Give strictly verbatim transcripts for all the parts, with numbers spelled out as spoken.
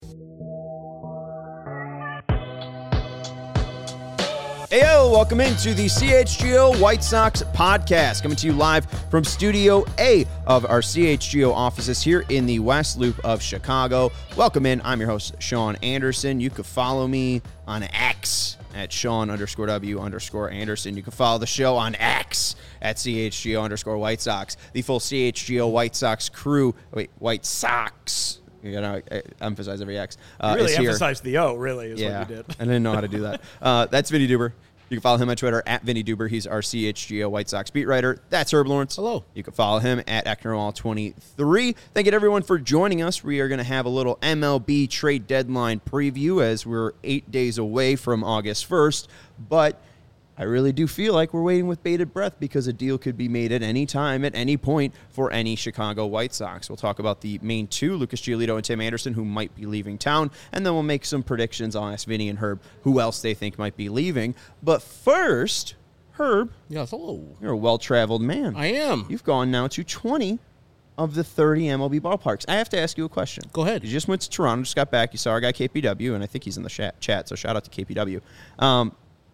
Heyo, welcome into the C H G O White Sox podcast, coming to you live from Studio A of our C H G O offices here in the West Loop of Chicago. Welcome in. I'm your host, Sean Anderson. You can follow me on X at Sean underscore W underscore Anderson. You can follow the show on X at C H G O underscore White Sox. The full C H G O White Sox crew, wait, White Sox. You gotta emphasize every X. Uh, you really emphasized the O, really, is yeah, what you did. I didn't know how to do that. Uh, that's Vinny Duber. You can follow him on Twitter at Vinny Duber. He's our C H G O White Sox beat writer. That's Herb Lawrence. Hello. You can follow him at Ecknerall twenty-three. Thank you to everyone for joining us. We are going to have a little M L B trade deadline preview as we're eight days away from August first. But I really do feel like we're waiting with bated breath because a deal could be made at any time, at any point, for any Chicago White Sox. We'll talk about the main two, Lucas Giolito and Tim Anderson, who might be leaving town, and then we'll make some predictions. I'll ask Vinny and Herb who else they think might be leaving. But first, Herb, yes, hello. You're a well-traveled man. I am. You've gone now to twenty of the thirty M L B ballparks. I have to ask you a question. Go ahead. You just went to Toronto, just got back. You saw our guy K P W, and I think he's in the chat, chat so shout out to K P W. Um,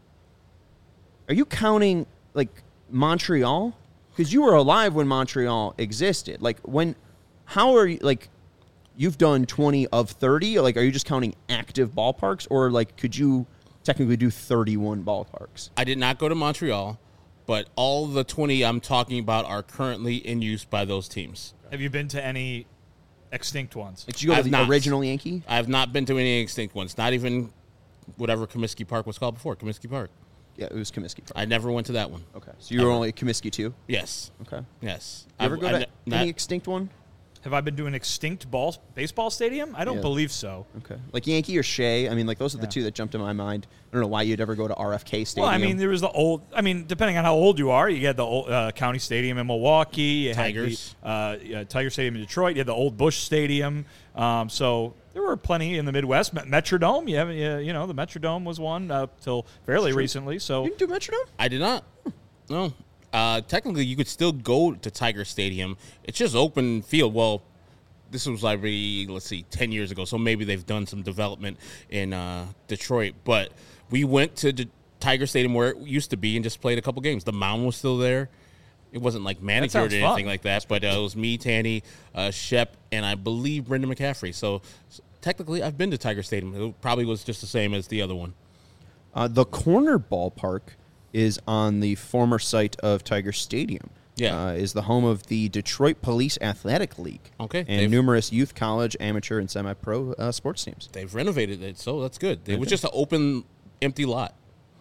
Are you counting, like, Montreal? Because you were alive when Montreal existed. Like, when, how are you, like, you've done twenty of thirty? Like, are you just counting active ballparks? Or, like, could you technically do thirty-one ballparks? I did not go to Montreal, but all the twenty I'm talking about are currently in use by those teams. Have you been to any extinct ones? Like, did you go I to have the not. original Yankee? I have not been to any extinct ones, not even whatever Comiskey Park was called before, Comiskey Park. Yeah, it was Comiskey Park. I never went to that one. Okay. So you were only at Comiskey too? Yes. Okay. Yes. You ever I've- go I to ne- any not- extinct one? Have I been to an extinct ball baseball stadium? I don't Yeah. believe so. Okay. Like Yankee or Shea? I mean, like, those are the Yeah. two that jumped in my mind. I don't know why you'd ever go to R F K Stadium. Well, I mean, there was the old. I mean, depending on how old you are, you had the old uh, County Stadium in Milwaukee. You Tigers. Had the, uh, yeah, Tiger Stadium in Detroit. You had the old Busch Stadium. Um, so there were plenty in the Midwest. Met- Metrodome. You have, you, you know, the Metrodome was one up till fairly recently. So You didn't do Metrodome? I did not. No. Uh, technically, you could still go to Tiger Stadium. It's just open field. Well, this was like, maybe, let's see, ten years ago, so maybe they've done some development in uh, Detroit. But we went to the Tiger Stadium where it used to be and just played a couple games. The mound was still there. It wasn't like manicured or sounds anything fun. like that, but uh, it was me, Tanny, uh, Shep, and I believe Brendan McCaffrey. So, so technically, I've been to Tiger Stadium. It probably was just the same as the other one. Uh, the corner ballpark is on the former site of Tiger Stadium. Yeah. Uh, is the home of the Detroit Police Athletic League. Okay, And they've- numerous youth, college, amateur, and semi-pro uh, sports teams. They've renovated it, so that's good. It was Okay. just an open, empty lot.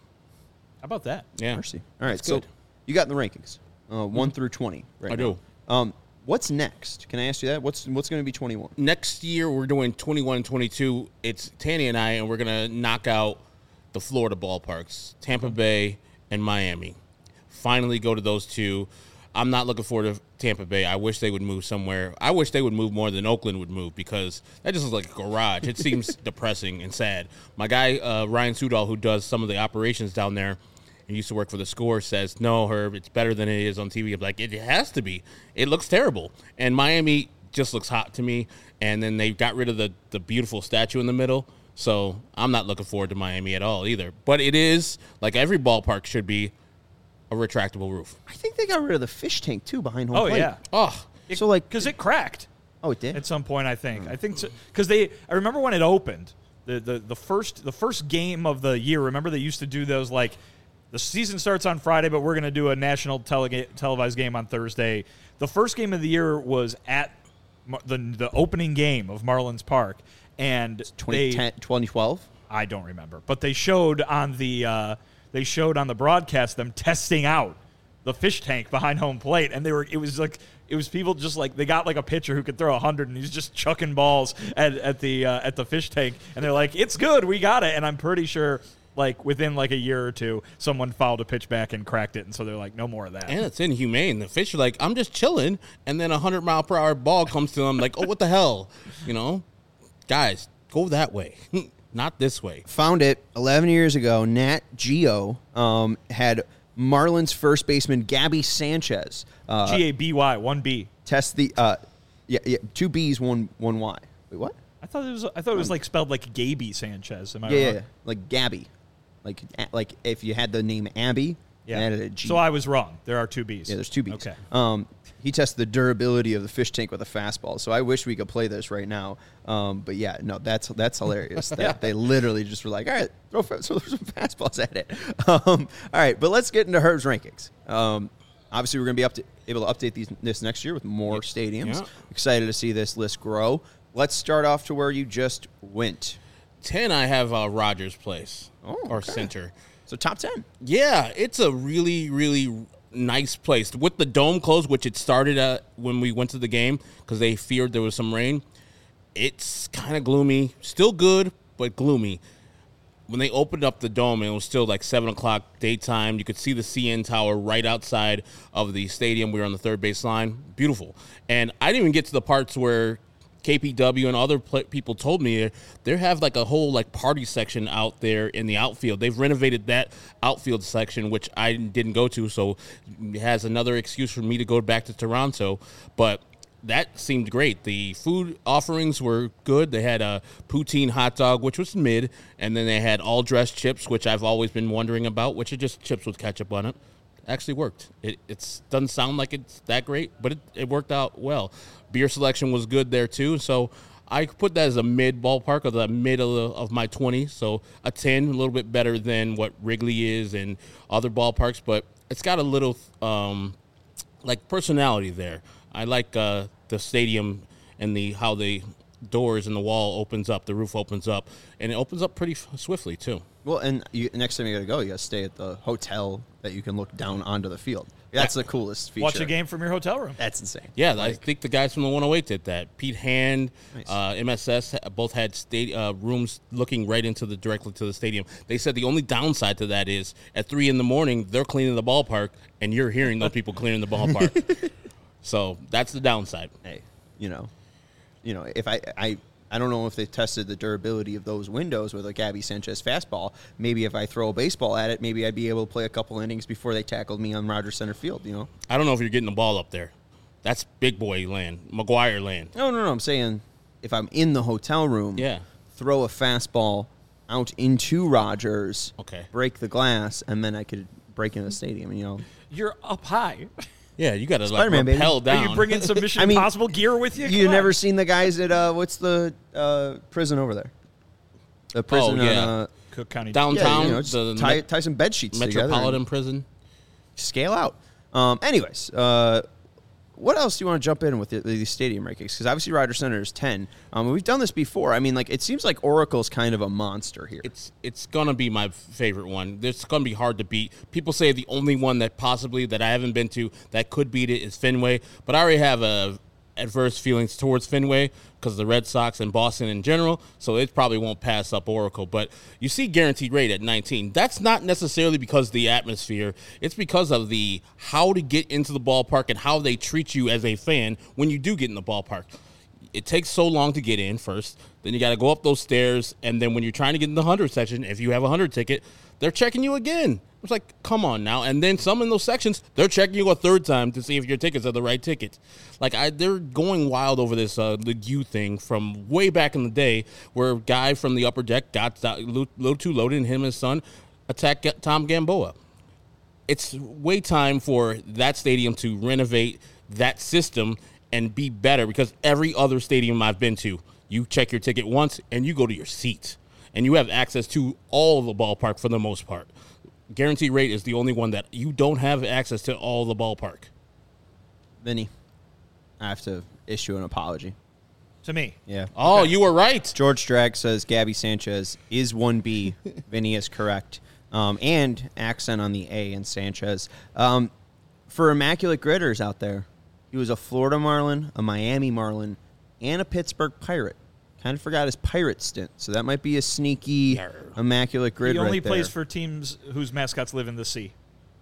how about that? Yeah. Mercy. All right, That's so good. you got in the rankings, uh, one through twenty right I now. do. Um, what's next? Can I ask you that? What's what's going to be twenty-one? Next year, we're doing twenty-one and twenty-two. It's Tanny and I, and we're going to knock out the Florida ballparks, Tampa Bay and Miami. Finally go to those two. I'm not looking forward to Tampa Bay. I wish they would move somewhere. I wish they would move more than Oakland would move because that just looks like a garage. It seems depressing and sad. My guy, uh, Ryan Sudol, who does some of the operations down there and used to work for the Score, says, no, Herb, it's better than it is on T V. I'm like, it has to be. It looks terrible. And Miami just looks hot to me. And then they got rid of the, the beautiful statue in the middle. So I'm not looking forward to Miami at all either. But it is, like every ballpark should be, a retractable roof. I think they got rid of the fish tank, too, behind home Oh plate. yeah. Oh, So, like, because it cracked oh, it did? at some point. I think. I think because they. I remember when it opened. The, the the first the first game of the year. Remember they used to do those like. The season starts on Friday, but we're going to do a national tele- televised game on Thursday. The first game of the year was at Mar- the the opening game of Marlins Park, and twenty they, ten, twenty twelve? I don't remember, but they showed on the uh, they showed on the broadcast them testing out the fish tank behind home plate, and they were it was like it was people just like they got like a pitcher who could throw a hundred, and he's just chucking balls at at the uh, at the fish tank, and they're like, it's good, we got it, and I'm pretty sure. Like, within, like, a year or two, someone fouled a pitch back and cracked it, and so they're like, no more of that. and it's inhumane. The fish are like, I'm just chilling, and then a hundred mile per hour ball comes to them, like, oh, what the hell, you know? Guys, go that way, not this way. Found it eleven years ago. Nat Geo um, had Marlins first baseman Gabby Sanchez uh, G A B Y, one B. test the uh, yeah, yeah two B's, one one Y. Wait, what? I thought it was. I thought it was like spelled like Gaby Sanchez. Am I Yeah, yeah, wrong? yeah, like Gabby, like a- like if you had the name Abby, Yeah. and added a G. So I was wrong. There are two B's. Yeah, there's two B's. Okay. Um, he tested the durability of the fish tank with a fastball. So I wish we could play this right now. Um, but yeah, no, that's that's hilarious. That they literally just were like, all right, throw, fa- throw some fastballs at it. Um, all right, but let's get into Herb's rankings. Um, obviously, we're going to be up to, able to update these this next year with more stadiums. Yeah. Excited to see this list grow. Let's start off to where you just went. ten, I have uh, Rogers Place Oh, or okay. Center. So top ten. Yeah, it's a really, really nice place. With the dome closed, which it started at when we went to the game because they feared there was some rain, it's kind of gloomy. Still good, but gloomy. When they opened up the dome, it was still like seven o'clock daytime. You could see the C N Tower right outside of the stadium. We were on the third base line. Beautiful. And I didn't even get to the parts where K P W and other pl- people told me they have like a whole like party section out there in the outfield. They've renovated that outfield section, which I didn't go to, so it has another excuse for me to go back to Toronto. But that seemed great. The food offerings were good. They had a poutine hot dog, which was mid, and then they had all dressed chips, which I've always been wondering about, which are just chips with ketchup on it. Actually worked. It it's doesn't sound like it's that great, but it, it worked out well. Beer selection was good there too, so I put that as a mid ballpark, of the mid of, the, of my twenty. So a ten, a little bit better than what Wrigley is and other ballparks, but it's got a little um, like personality there. I like uh, the stadium and the how the doors and the wall opens up, the roof opens up, and it opens up pretty f- swiftly too. Well, and you, next time you got to go, you got to stay at the hotel that you can look down onto the field. That's the coolest feature. Watch a game from your hotel room. That's insane. Yeah, I Like, think the guys from the one oh eight did that. Pete Hand, Nice. uh, M S S ha- both had sta- uh, rooms looking right into the directly to the stadium. They said the only downside to that is at three in the morning they're cleaning the ballpark and you're hearing those people cleaning the ballpark. So that's the downside. hey, you know, you know, if I, I, I don't know if they tested the durability of those windows with a Gabby Sanchez fastball. Maybe if I throw a baseball at it, maybe I'd be able to play a couple innings before they tackled me on Rogers Center Field. You know? I don't know if you're getting the ball up there. That's big boy land, McGuire land. No, no, no. I'm saying if I'm in the hotel room, Yeah. throw a fastball out into Rogers, Okay. break the glass, and then I could break into the stadium. You know, You're up high. Yeah, you got to like Spider-Man, baby. rappel down. Are you bringing some Mission I mean, Impossible gear with you? you Come never on. seen the guys at uh, what's the uh, prison over there? The prison yeah. on uh, Cook County. downtown, yeah, you know, just the tie, Met- tie some bed sheets together Metropolitan and Prison. scale out. Um, anyways, uh, what else do you want to jump in with the, these stadium rankings? Because obviously Rogers Center is ten. Um, we've done this before. I mean, like it seems like Oracle's kind of a monster here. It's it's gonna be my favorite one. It's gonna be hard to beat. People say the only one that possibly that I haven't been to that could beat it is Fenway, but I already have a adverse feelings towards Fenway because of the Red Sox and Boston in general, so it probably won't pass up Oracle. But you see guaranteed rate at nineteen. That's not necessarily because of the atmosphere. It's because of the how to get into the ballpark and how they treat you as a fan when you do get in the ballpark. It takes so long to get in first. Then you got to go up those stairs. And then when you're trying to get in the one hundred section, if you have a one hundred ticket, they're checking you again. It's like, come on now. And then some in those sections, they're checking you a third time to see if your tickets are the right tickets. Like, I, they're going wild over this uh, the U thing from way back in the day where a guy from the upper deck got a little too loaded and him and his son attacked Tom Gamboa. It's way time for that stadium to renovate that system and be better, because every other stadium I've been to, you check your ticket once and you go to your seat and you have access to all the ballpark for the most part. Guaranteed rate is the only one that you don't have access to all the ballpark. Vinny, I have to issue an apology. To me. Yeah. Oh, you were right. George Drag says Gabby Sanchez is one B. Vinny is correct. Um, and accent on the A in Sanchez. Um, for Immaculate Gritters out there, he was a Florida Marlin, a Miami Marlin, and a Pittsburgh Pirate. Kind of forgot his Pirate stint, so that might be a sneaky Yarr. Immaculate Grid He only right plays there. for teams whose mascots live in the sea.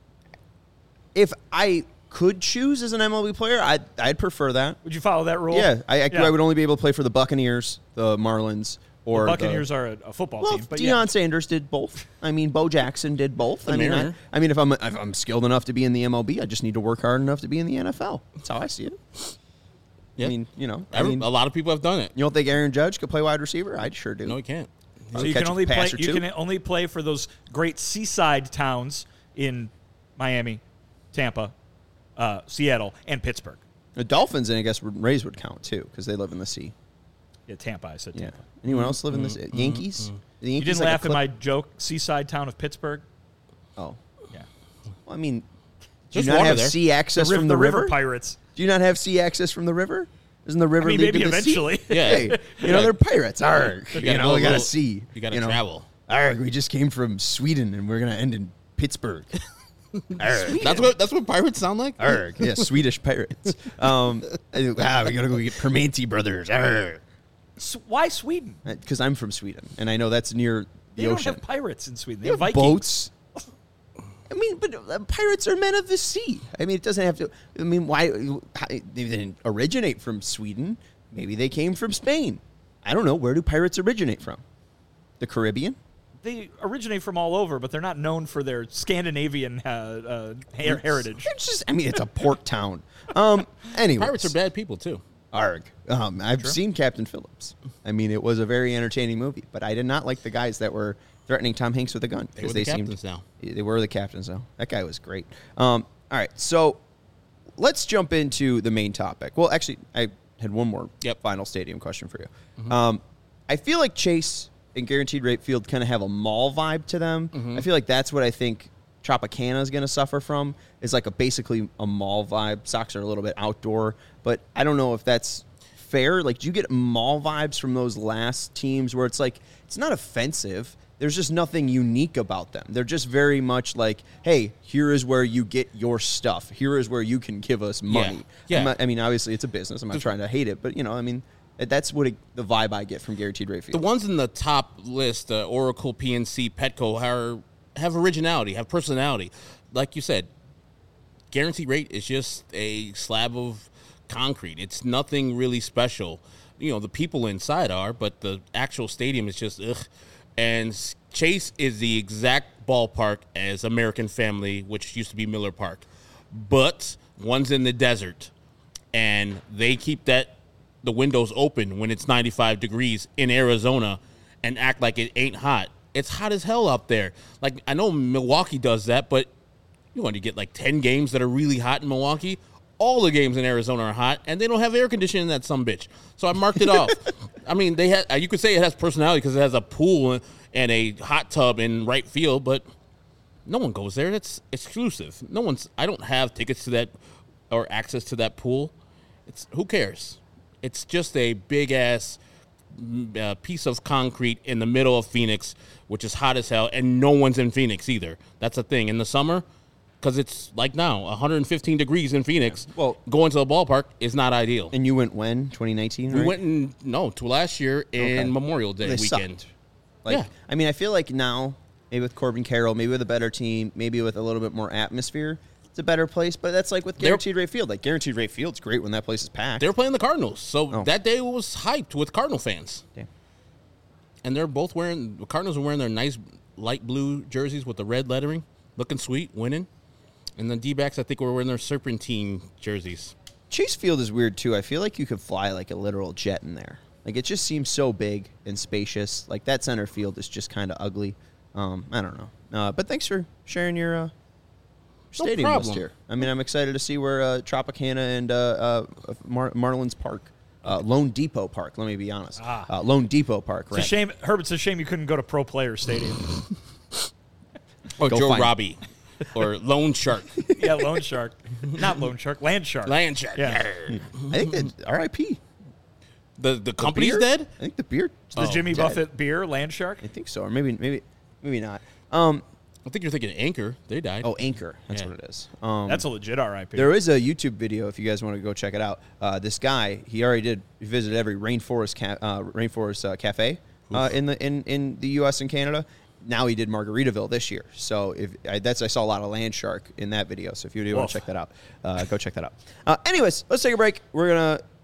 If I could choose as an M L B player, I'd, I'd prefer that. Would you follow that rule? Yeah, I, I, Yeah. I would only be able to play for the Buccaneers, the Marlins, or The Buccaneers the, are a, a football Well, team. But Deion yeah. Sanders did both. I mean, Bo Jackson did both. The I mean, I, Mariner. I mean, if I'm if I'm skilled enough to be in the M L B, I just need to work hard enough to be in the N F L. That's how I see it. Yeah. I mean, you know, I Every, mean, a lot of people have done it. you don't think Aaron Judge could play wide receiver? I sure do. No, he can't. So you catch can a only play. pass or You two. can only play for those great seaside towns in Miami, Tampa, uh, Seattle, and Pittsburgh. The Dolphins, and I guess Rays would count too because they live in the sea. Yeah, Tampa. I said Yeah. Tampa. Anyone else live in the sea? Yankees? The You Yankees didn't like a laugh at clip- my joke, seaside town of Pittsburgh. Oh, Yeah, well, I mean, do There's you not water have there. sea access the, riv- from the the river? river pirates. Do you not have sea access from the river? Doesn't the river I mean, lead maybe to the eventually. sea? Yeah. Hey, you know, they're pirates. Arg. You, gotta know, go we a got to little- see. you gotta know. travel. Arg, we just came from Sweden, and we're going to end in Pittsburgh. Arg. That's what that's what pirates sound like. Arg. Yeah, Swedish pirates. Um, ah, we got to go get Permanente Brothers. S- Why Sweden? Because I'm from Sweden, and I know that's near the They don't ocean. have pirates in Sweden. They, They have have Vikings. boats. I mean, but uh, pirates are men of the sea. I mean, it doesn't have to. I mean, why? how- They didn't originate from Sweden. Maybe they came from Spain. I don't know. Where do pirates originate from? The Caribbean? They originate from all over, but they're not known for their Scandinavian uh, uh, her- heritage. It's just. I mean, it's a port town. Um. Anyway, Pirates are bad people too. Arg. Um, I've seen Captain Phillips. I mean, it was a very entertaining movie, but I did not like the guys that were threatening Tom Hanks with a gun. They 'cause were the seemed- captains now. They were the captains now. That guy was great. Um, all right, so let's jump into the main topic. Well, actually, I had one more Yep. final stadium question for you. Um, I feel like Chase and Guaranteed Rate Field kind of have a mall vibe to them. I feel like that's what I think Tropicana is going to suffer from, is like a basically a mall vibe. Sox are a little bit outdoor, but I don't know if that's fair. Like, do you get mall vibes from those last teams where it's like, it's not offensive. There's just nothing unique about them. They're just very much like, hey, here is where you get your stuff. Here is where you can give us money. Yeah. I'm not- I mean, obviously, it's a business. I'm not trying to hate it, but, you know, I mean, that's what it, the vibe I get from Guaranteed Rate Field. The ones in the top list, uh, Oracle, P N C, Petco, are, have originality, have personality. Like you said, Guaranteed Rate is just a slab of concrete. It's nothing really special. You know, the people inside are, but the actual stadium is just ugh. And Chase is the exact ballpark as American Family, which used to be Miller Park. But one's in the desert, and they keep that the windows open when it's ninety-five degrees in Arizona and act like it ain't hot. It's hot as hell out there. Like, I know Milwaukee does that, but you want to get like ten games that are really hot in Milwaukee. All the games in Arizona are hot, and they don't have air conditioning in that sumbitch. So I marked it off. I mean, they had. You could say it has personality because it has a pool and a hot tub in right field, but no one goes there. That's exclusive. No one's. I don't have tickets to that or access to that pool. It's who cares? It's just a big ass uh, piece of concrete in the middle of Phoenix, which is hot as hell, and no one's in Phoenix either. That's the thing. In the summer, because it's like now, one hundred fifteen degrees in Phoenix. Well- going to the ballpark is not ideal. And you went when? twenty nineteen, We right? went in no to last year in Okay. Memorial Day They weekend. sucked. Like, Yeah. I mean, I feel like now, maybe with Corbin Carroll, maybe with a better team, maybe with a little bit more atmosphere, it's a better place. But that's like with They're- Guaranteed Rate Field. Like, Guaranteed Rate Field's great when that place is packed. They were playing the Cardinals, so Oh. that day was hyped with Cardinal fans. Damn. And they're both wearing the Cardinals are wearing their nice light blue jerseys with the red lettering, looking sweet, winning. And the D-backs, I think, were wearing their serpentine jerseys. Chase Field is weird, too. I feel like you could fly like a literal jet in there. Like, it just seems so big and spacious. Like, that center field is just kind of ugly. Um, I don't know. Uh, but thanks for sharing your uh, No stadium list problem. here. I mean, I'm excited to see where uh, Tropicana and uh, uh, Mar- Marlins Park, uh, Lone Depot Park, let me be honest. Ah. Uh, Lone Depot Park, It's a right? shame, Herb. It's a shame you couldn't go to Pro Player Stadium. Or Go Joe find it. Robbie. Or Lone Shark. Yeah, Loan Shark, not Loan Shark, Land Shark. Land Shark. Yeah. I think that R I P The, the company's beer? dead? I think the beer. The Jimmy dead. Buffett beer, Land Shark. I think so, or maybe maybe maybe not. Um, I think you're thinking Anchor. They died. oh, Anchor. That's Yeah. what it is. Um, That's a legit R I P. There is a YouTube video if you guys want to go check it out. Uh, this guy, he already did he visited every rainforest ca- uh, rainforest uh, cafe uh, in the in, in the U S and Canada. Now he did Margaritaville this year. So if I, that's I saw a lot of Land Shark in that video. So if you do want Woof. to check that out, uh, go check that out. Uh, anyways, let's take a break. We're gonna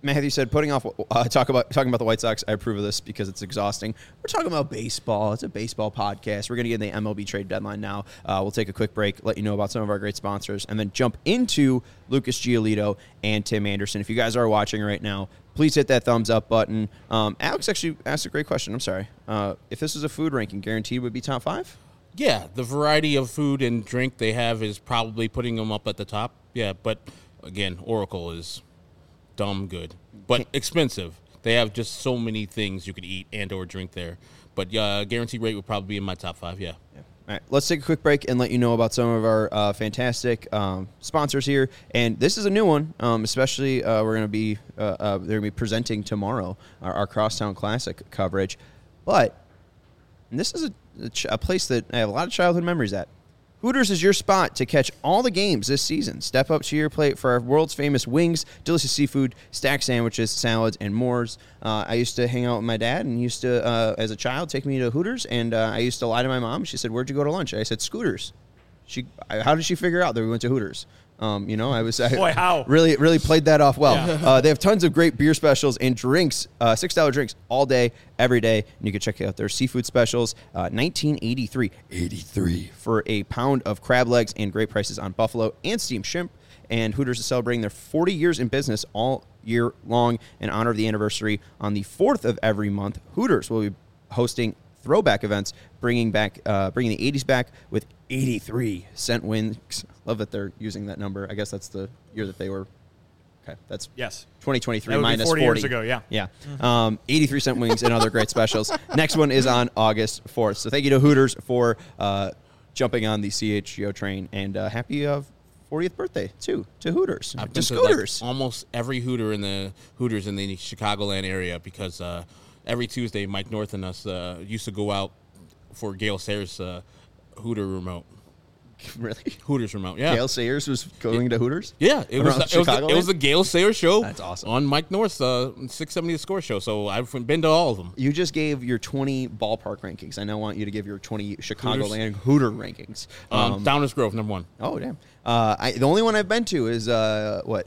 Matthew said, putting off uh, talk about talking about the White Sox. I approve of this because it's exhausting. We're talking about baseball. It's a baseball podcast. We're going to get in the M L B trade deadline now. Uh, we'll take a quick break, let you know about some of our great sponsors, and then jump into Lucas Giolito and Tim Anderson. If you guys are watching right now, please hit that thumbs up button. Um, Alex actually asked a great question. I'm sorry. Uh, if this was a food ranking, guaranteed would be top five? Yeah, the variety of food and drink they have is probably putting them up at the top. Yeah, but again, Oracle is dumb good, but expensive. They have just so many things you could eat and or drink there. But uh, guaranteed rate would probably be in my top five, yeah. yeah. All right, let's take a quick break and let you know about some of our uh, fantastic um, sponsors here. And this is a new one, um, especially uh, we're going to be uh, uh, they're going to be presenting tomorrow our, our Crosstown Classic coverage. But and this is a, a, ch- a place that I have a lot of childhood memories at. Hooters is your spot to catch all the games this season. Step up to your plate for our world's famous wings, delicious seafood, stacked sandwiches, salads, and more. Uh, I used to hang out with my dad and used to, uh, as a child, take me to Hooters. And uh, I used to lie to my mom. She said, "Where'd you go to lunch?" I said, "Scooters." She, I, how did she figure out that we went to Hooters? Um, you know, I was I Boy, how? really really played that off well. Yeah. Uh, they have tons of great beer specials and drinks, uh, six dollar drinks all day, every day. And you can check out their seafood specials. Uh, nineteen eighty-three, eighty-three for a pound of crab legs, and great prices on buffalo and steamed shrimp. And Hooters is celebrating their forty years in business all year long in honor of the anniversary. On the fourth of every month, Hooters will be hosting throwback events, bringing back, uh, bringing the eighties back with eighty-three cent wings. Love that they're using that number. I guess that's the year that they were. Okay, that's Yes. twenty twenty-three That would be minus forty forty years ago, yeah. Yeah, um, eighty-three cent wings and other great specials. Next one is on August fourth. So thank you to Hooters for uh, jumping on the C H G O train, and uh, happy uh, fortieth birthday too to Hooters. I've to been to like Scooters. almost every Hooter in the Hooters in the Chicagoland area because uh, every Tuesday, Mike North and us uh, used to go out for Gail Sayers' uh, Hooter remote. Really? Hooters remote, yeah. Gail Sayers was going to Hooters? Yeah, it was, Around it, was the, Chicagoland? it was the Gail Sayers show. That's awesome. On Mike North's uh, six seventy The Score show, so I've been to all of them. You just gave your twenty ballpark rankings. I now want you to give your twenty Chicagoland Hooter rankings. Um, Um, Downers Grove, number one. oh, damn. Uh, I, the only one I've been to is, uh, what?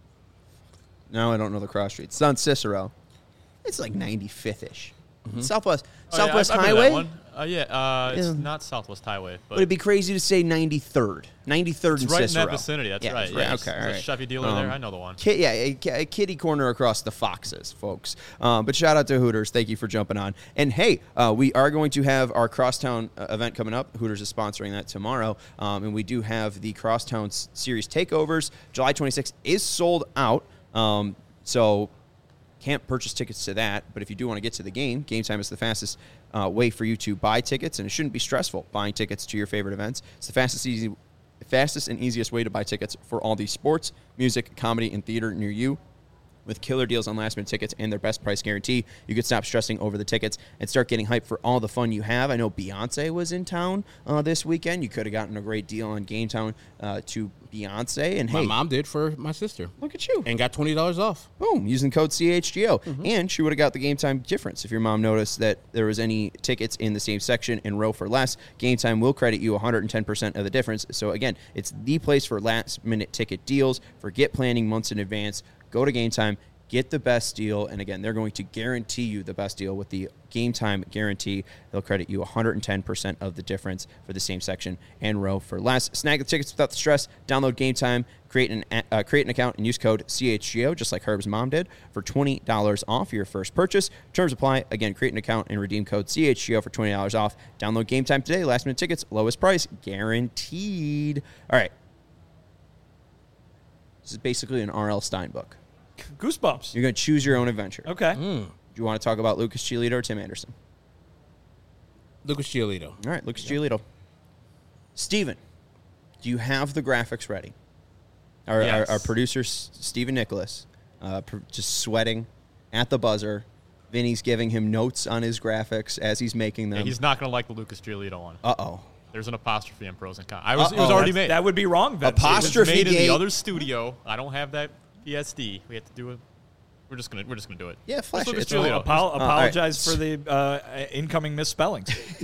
No, I don't know the cross streets. It's on Cicero. It's like ninety-fifth-ish. Southwest Oh, yeah, Southwest I've- I've been to that Highway? one. Uh, yeah, uh, it's Yeah. not Southwest Highway, but Would it be crazy to say ninety-third? ninety-third it's and right Cicero. in that vicinity. That's Yeah, right. it's right. Yeah, Okay, all There's right. a Chevy dealer Um, there. I know the one. Ki- yeah, a, a kitty corner across the Foxes, folks. Um, but shout out to Hooters. Thank you for jumping on. And hey, uh, we are going to have our Crosstown uh, event coming up. Hooters is sponsoring that tomorrow. Um, and we do have the Crosstown s- Series takeovers. July twenty-sixth is sold out. Um, so can't purchase tickets to that. But if you do want to get to the game, Game Time is the fastest uh, way for you to buy tickets. And it shouldn't be stressful buying tickets to your favorite events. It's the fastest, easy, fastest and easiest way to buy tickets for all these sports, music, comedy, and theater near you. With killer deals on last-minute tickets and their best price guarantee, you can stop stressing over the tickets and start getting hyped for all the fun you have. I know Beyonce was in town uh, this weekend. You could have gotten a great deal on Game Town uh, to Beyonce. And My hey, mom did for my sister. look at you. And got twenty dollars off. Boom, using code C H G O. And she would have got the Game Time difference. If your mom noticed that there was any tickets in the same section in row for less, Game Time will credit you one hundred ten percent of the difference. So again, it's the place for last-minute ticket deals. Forget planning months in advance. Go to Game Time. Get the best deal, and again, they're going to guarantee you the best deal with the Game Time guarantee. They'll credit you one hundred ten percent of the difference for the same section and row for less. Snag the tickets without the stress. Download Game Time, create an uh, create an account, and use code C H G O, just like Herb's mom did, for twenty dollars off your first purchase. Terms apply. Again, create an account and redeem code C H G O for twenty dollars off. Download Game Time today. Last minute tickets, lowest price, guaranteed. All right. This is basically an R L Stein book. Goosebumps. You're going to choose your own adventure. Okay. Do you want to talk about Lucas Giolito or Tim Anderson? Lucas Giolito. All right, Lucas Giolito. Steven, do you have the graphics ready? Our, Yes. our, our producer, S- Steven Nicholas, uh, pr- just sweating at the buzzer. Vinny's giving him notes on his graphics as he's making them. Yeah, he's not going to like the Lucas Giolito one. Uh-oh. There's an apostrophe in pros and cons. I was, it was Uh-oh. already That's- made. That would be wrong then. Apostrophe. It was made in gate. the other studio. I don't have that P S D. We have to do it. We're just gonna we're just gonna do it. Yeah, flash Let's it. look at It's all- Giolito. Apo- all right. apologize for the uh, incoming misspellings.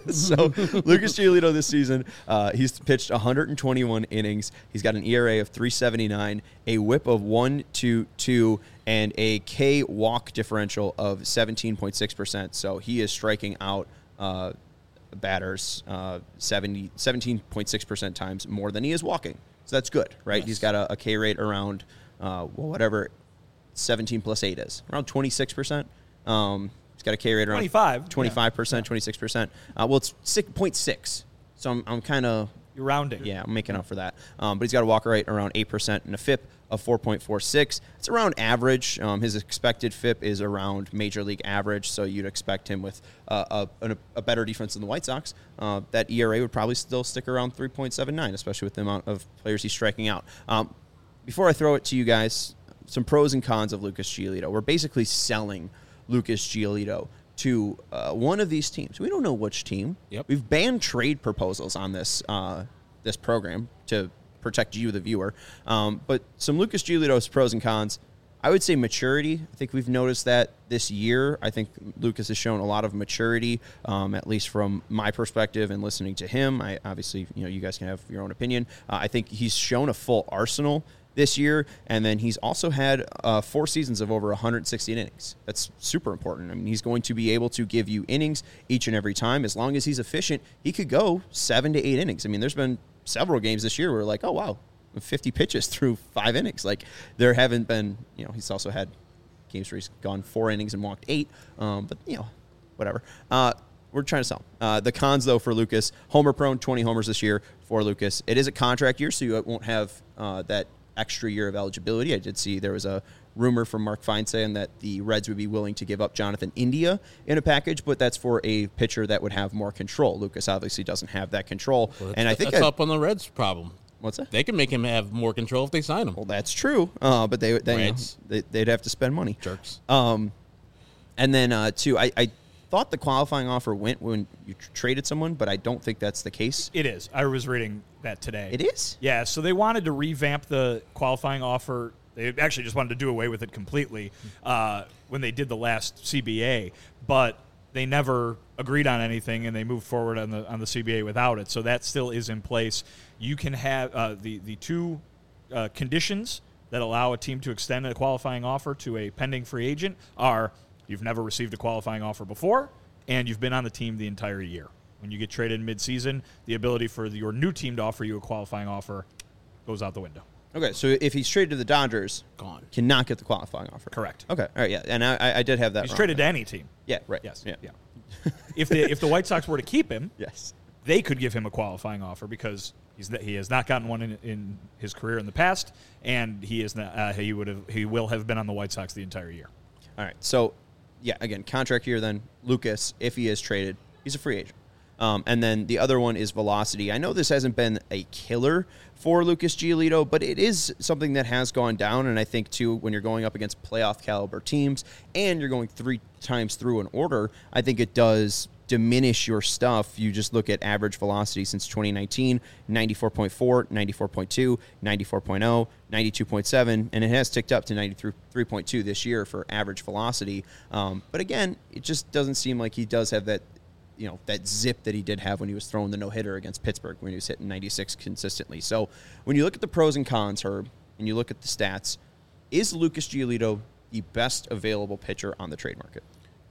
so Lucas Giolito this season, uh, he's pitched one hundred twenty-one innings. He's got an E R A of three seventy-nine, a whip of one two two, and a K walk differential of seventeen point six percent. So he is striking out uh, batters uh, seventy, seventeen point six percent times more than he is walking. So that's good, right? Yes. He's got a, a K rate around, uh, well, whatever seventeen plus eight is, around twenty-six percent. Um, he's got a K rate around twenty-five. twenty-five percent, Yeah. twenty-six percent. Uh, well, it's six point six. So I'm, I'm kind of, You're rounding. yeah, I'm making up for that. Um, but he's got a walk rate around eight percent and a F I P of four point four six. It's around average. Um, his expected F I P is around major league average, so you'd expect him with uh, a, a better defense than the White Sox. Uh, that E R A would probably still stick around three point seven nine, especially with the amount of players he's striking out. Um, before I throw it to you guys, some pros and cons of Lucas Giolito. We're basically selling Lucas Giolito to uh, one of these teams. We don't know which team. Yep. We've banned trade proposals on this uh, this program to protect you, the viewer. Um, but some Lucas Giolito's pros and cons. I would say maturity. I think we've noticed that this year. I think Lucas has shown a lot of maturity, um, at least from my perspective and listening to him. I obviously, you know, you guys can have your own opinion. Uh, I think he's shown a full arsenal this year, and then he's also had uh, four seasons of over one hundred sixty innings. That's super important. I mean, he's going to be able to give you innings each and every time. As long as he's efficient, he could go seven to eight innings. I mean, there's been several games this year where we're like, oh, wow, fifty pitches through five innings. Like, there haven't been, you know, he's also had games where he's gone four innings and walked eight, um, but, you know, whatever. Uh, we're trying to sell. Uh, the cons, though, for Lucas, homer prone, twenty homers this year for Lucas. It is a contract year, so you won't have uh, that extra year of eligibility. I did see there was a rumor from Mark Feinsand that the Reds would be willing to give up Jonathan India in a package, but that's for a pitcher that would have more control. Lucas obviously doesn't have that control, Well, and I think that's I, up on the Reds' problem. what's that? They can make him have more control if they sign him. Well, that's true, uh, but they, they, you know, Reds. they they'd have to spend money. Jerks. Um, and then uh, two, I, I thought the qualifying offer went when you tr- traded someone, but I don't think that's the case. It is. I was reading that today. It is? Yeah, so they wanted to revamp the qualifying offer. They actually just wanted to do away with it completely uh, when they did the last C B A, but they never agreed on anything, and they moved forward on the on the C B A without it. So that still is in place. You can have uh, the the two uh, conditions that allow a team to extend a qualifying offer to a pending free agent are you've never received a qualifying offer before, and you've been on the team the entire year. When you get traded mid-season, the ability for your new team to offer you a qualifying offer goes out the window. Okay, so if he's traded to the Dodgers, Gone. cannot get the qualifying offer. Correct. Okay, all right, yeah, and I, I did have that He's wrong. traded to any team. Yeah, right. Yes. Yeah. Yeah. if the if the White Sox were to keep him, Yes. they could give him a qualifying offer because he's he has not gotten one in, in his career in the past, and he is not, uh, he would have he will have been on the White Sox the entire year. All right, so, yeah, again, contract year then, Lucas, if he is traded, he's a free agent. Um, and then the other one is velocity. I know this hasn't been a killer for Lucas Giolito, but it is something that has gone down. And I think, too, when you're going up against playoff caliber teams and you're going three times through an order, I think it does diminish your stuff. You just look at average velocity since twenty nineteen, ninety-four point four, ninety-four point two, ninety-four point oh, ninety-two point seven, and it has ticked up to ninety-three point two this year for average velocity. Um, but again, it just doesn't seem like he does have that, you know, that zip that he did have when he was throwing the no-hitter against Pittsburgh when he was hitting ninety-six consistently. So when you look at the pros and cons, Herb, and you look at the stats, is Lucas Giolito the best available pitcher on the trade market?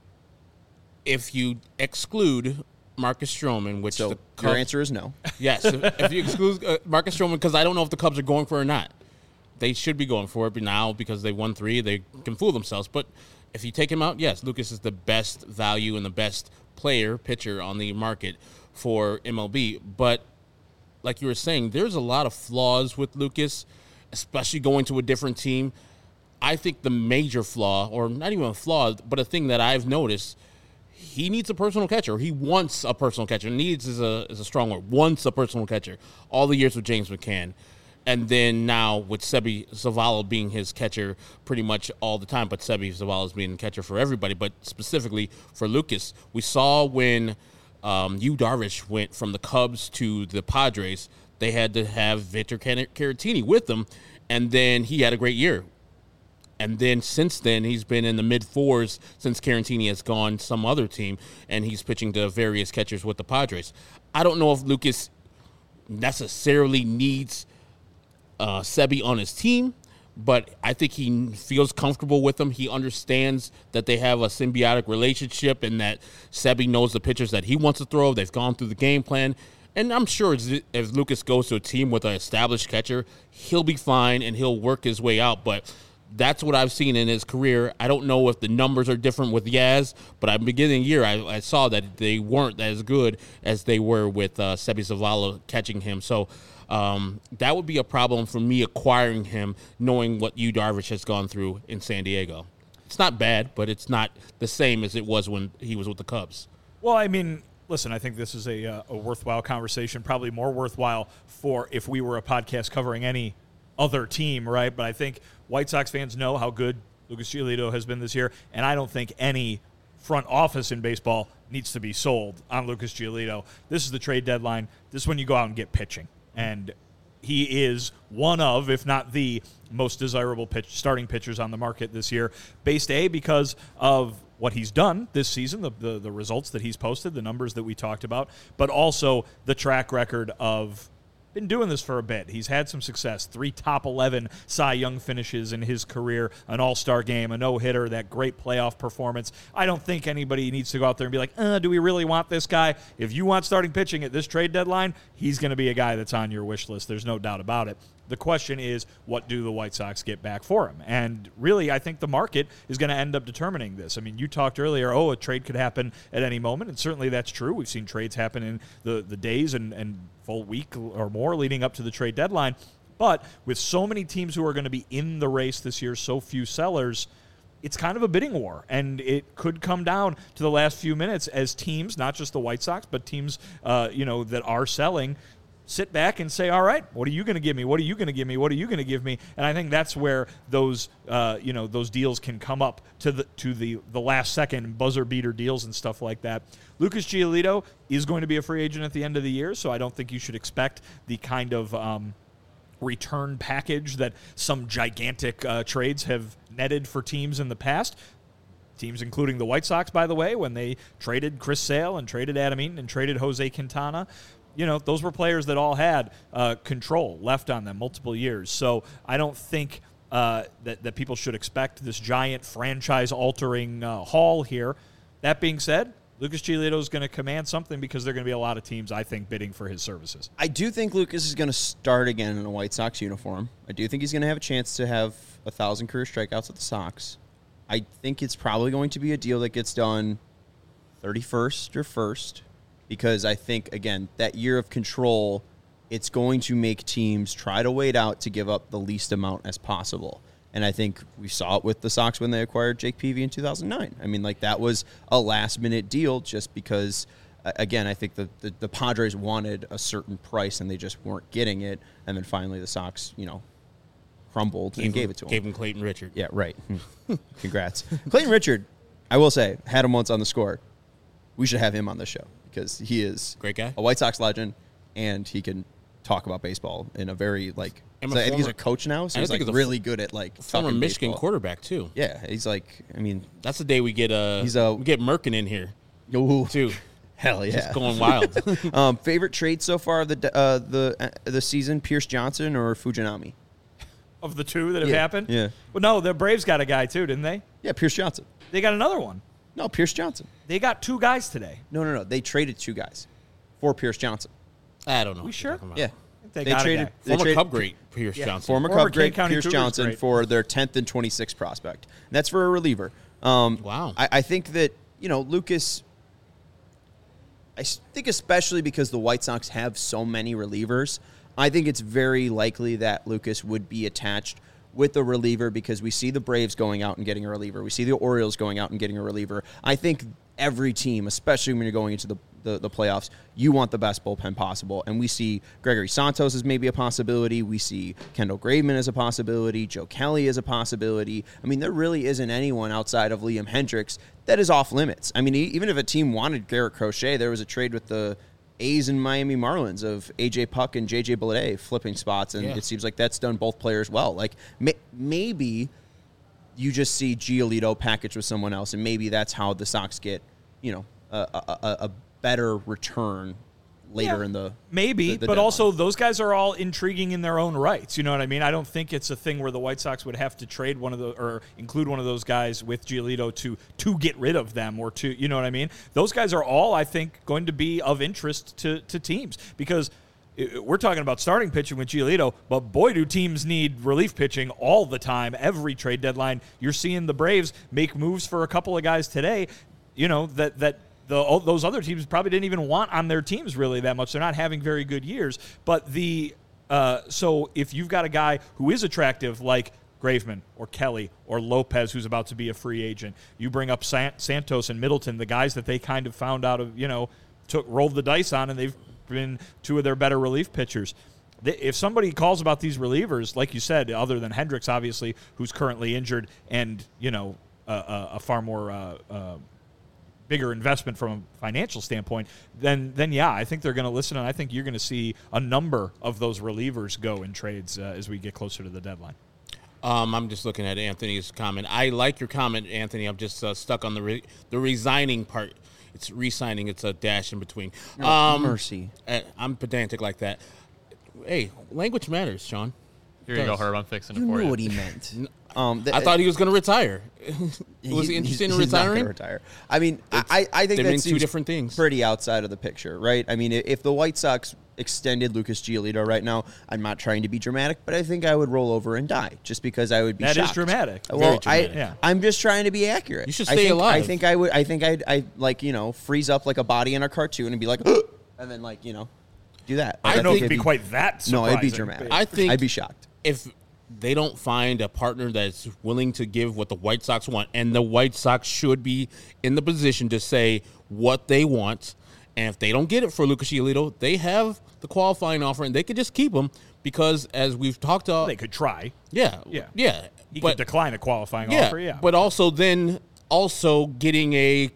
If you exclude Marcus Stroman, which So the your Cubs- answer is no. Yes, if, if you exclude uh, Marcus Stroman, because I don't know if the Cubs are going for it or not. They should be going for it, but now because they won three, they can fool themselves. But if you take him out, yes, Lucas is the best value and the best player, pitcher on the market for M L B. But like you were saying, there's a lot of flaws with Lucas, especially going to a different team. I think the major flaw, or not even a flaw, but a thing that I've noticed, he needs a personal catcher. He wants a personal catcher. Needs is a is a strong word. Wants a personal catcher. All the years with James McCann. And then now with Sebi Zavala being his catcher pretty much all the time, but Sebi Zavala is being catcher for everybody, but specifically for Lucas. We saw when um, Yu Darvish went from the Cubs to the Padres, they had to have Victor Caratini with them, and then he had a great year. And then since then, he's been in the mid fours since Caratini has gone some other team, and he's pitching to various catchers with the Padres. I don't know if Lucas necessarily needs uh, Sebi on his team, but I think he feels comfortable with him. He understands that they have a symbiotic relationship and that Sebi knows the pitchers that he wants to throw. They've gone through the game plan. And I'm sure if Lucas goes to a team with an established catcher, he'll be fine and he'll work his way out. But that's what I've seen in his career. I don't know if the numbers are different with Yaz, but at the beginning of the year, I, I saw that they weren't as good as they were with uh, Sebi Zavala catching him. So um, that would be a problem for me acquiring him, knowing what Yu Darvish has gone through in San Diego. It's not bad, but it's not the same as it was when he was with the Cubs. Well, I mean, listen, I think this is a, uh, a worthwhile conversation, probably more worthwhile for if we were a podcast covering any other team, right? But I think White Sox fans know how good Lucas Giolito has been this year, and I don't think any front office in baseball needs to be sold on Lucas Giolito. This is the trade deadline. This is when you go out and get pitching. And he is one of, if not the most desirable pitch, starting pitchers on the market this year, based A, because of what he's done this season, the, the the results that he's posted, the numbers that we talked about, but also the track record of been doing this for a bit. He's had some success. Three top eleven Cy Young finishes in his career, an all-star game, a no-hitter, that great playoff performance. I don't think anybody needs to go out there and be like, uh, do we really want this guy? If you want starting pitching at this trade deadline, he's going to be a guy that's on your wish list. There's no doubt about it. The question is, what do the White Sox get back for him? And really, I think the market is going to end up determining this. I mean, you talked earlier, oh, a trade could happen at any moment, and certainly that's true. We've seen trades happen in the, the days and, and full week or more leading up to the trade deadline. But with so many teams who are going to be in the race this year, so few sellers, it's kind of a bidding war, and it could come down to the last few minutes as teams, not just the White Sox, but teams uh, you know, that are selling, sit back and say, all right, what are you going to give me? What are you going to give me? What are you going to give me? And I think that's where those, uh, you know, those deals can come up to the to the, the last second buzzer beater deals and stuff like that. Lucas Giolito is going to be a free agent at the end of the year, so I don't think you should expect the kind of um, return package that some gigantic uh, trades have netted for teams in the past. Teams including the White Sox, by the way, when they traded Chris Sale and traded Adam Eaton and traded Jose Quintana. You know, those were players that all had uh, control left on them multiple years. So I don't think uh, that, that people should expect this giant franchise-altering uh, haul here. That being said, Lucas Giolito is going to command something because there are going to be a lot of teams, I think, bidding for his services. I do think Lucas is going to start again in a White Sox uniform. I do think he's going to have a chance to have a thousand career strikeouts with the Sox. I think it's probably going to be a deal that gets done thirty-first or first. Because I think, again, that year of control, it's going to make teams try to wait out to give up the least amount as possible. And I think we saw it with the Sox when they acquired Jake Peavy in two thousand nine. I mean, like, that was a last-minute deal just because, again, I think the, the, the Padres wanted a certain price and they just weren't getting it. And then finally the Sox, you know, crumbled Gave and him, gave it to him. Gave him Clayton Richard. Yeah, right. Congrats. Clayton Richard, I will say, had him once on the score. We should have him on the show. Because he is great guy, a White Sox legend, and he can talk about baseball in a very like. So I think he's a coach now, so he's like really f- good at like former talking Michigan baseball. quarterback too. Yeah, he's like, I mean, that's the day we get uh he's a we get Merkin in here ooh, too. Hell yeah, just going wild. um, favorite trade so far of the uh, the uh, the season: Pierce Johnson or Fujinami? Of the two that have Yeah, happened? yeah. Well, no, the Braves got a guy too, didn't they? Yeah, Pierce Johnson. They got another one. No, Pierce Johnson. They got two guys today. No, no, no. They traded two guys for Pierce Johnson. I don't know. We what sure? you're talking about. Yeah, They, They got traded- a guy. They Former traded- Cub great Pierce Yeah. Johnson. Former Former Cub great King County Pierce Cougars Johnson great. for their tenth and twenty-sixth prospect. And that's for a reliever. Um, Wow. I, I think that, you know, Lucas, I s- think especially because the White Sox have so many relievers, I think it's very likely that Lucas would be attached with a reliever because we see the Braves going out and getting a reliever. We see the Orioles going out and getting a reliever. I think every team, especially when you're going into the, the, the playoffs, you want the best bullpen possible. And we see Gregory Santos as maybe a possibility. We see Kendall Graveman as a possibility. Joe Kelly as a possibility. I mean, there really isn't anyone outside of Liam Hendricks that is off limits. I mean, e- even if a team wanted Garrett Crochet, there was a trade with the A's and Miami Marlins of A J Puck and J J Bleday flipping spots, and Yeah. it seems like that's done both players well. Like, may- maybe you just see Giolito packaged with someone else, and maybe that's how the Sox get, you know, a, a, a better return later Yeah, in the maybe, the- the but deadline. also those guys are all intriguing in their own rights. You know what I mean? I don't think it's a thing where the White Sox would have to trade one of the or include one of those guys with Giolito to to get rid of them or to, you know what I mean? Those guys are all, I think, going to be of interest to to teams because i- we're talking about starting pitching with Giolito, but boy, do teams need relief pitching all the time. Every trade deadline, you're seeing the Braves make moves for a couple of guys today. You know that that. The, all those other teams probably didn't even want on their teams really that much. They're not having very good years. But the uh, so if you've got a guy who is attractive like Graveman or Kelly or Lopez, who's about to be a free agent, you bring up San- Santos and Middleton, the guys that they kind of found out of, you know, took rolled the dice on, and they've been two of their better relief pitchers. If somebody calls about these relievers, like you said, other than Hendricks, obviously, who's currently injured and, you know, a, a, a far more uh, uh, bigger investment from a financial standpoint, then then yeah, I think they're going to listen, and I think you're going to see a number of those relievers go in trades uh, as we get closer to the deadline. Um, I'm just looking at Anthony's comment. I like your comment, Anthony. I'm just uh, stuck on the re- the resigning part. It's re-signing. It's a dash in between. No, um, mercy. uh, I'm pedantic like that. Hey, language matters, Sean. Here you go, does. Herb. I'm fixing it You for knew you. what he meant. Um, th- I thought he was going to retire. he- was he interested he's, in he's not retiring? gonna retire. I mean, I, I think they that mean two seems different things. pretty outside of the picture, right? I mean, i- if the White Sox extended Lucas Giolito right now, I'm not trying to be dramatic, but I think I would roll over and die just because I would be That is shocked. dramatic. Well, Very dramatic. I, Yeah. I'm just trying to be accurate. You should I stay think, alive. I think I would. I think I'd, I like you know freeze up like a body in a cartoon and be like, and then like you know, do that. I Like, don't know think if it'd be quite that No, surprising. it'd be dramatic. I think I'd be shocked. if they don't find a partner that's willing to give what the White Sox want, and the White Sox should be in the position to say what they want, and if they don't get it for Lucas Giolito, they have the qualifying offer, and they could just keep him because, as we've talked about, They could try. yeah, Yeah. yeah, He but could decline a qualifying yeah, offer, yeah. but also then also getting a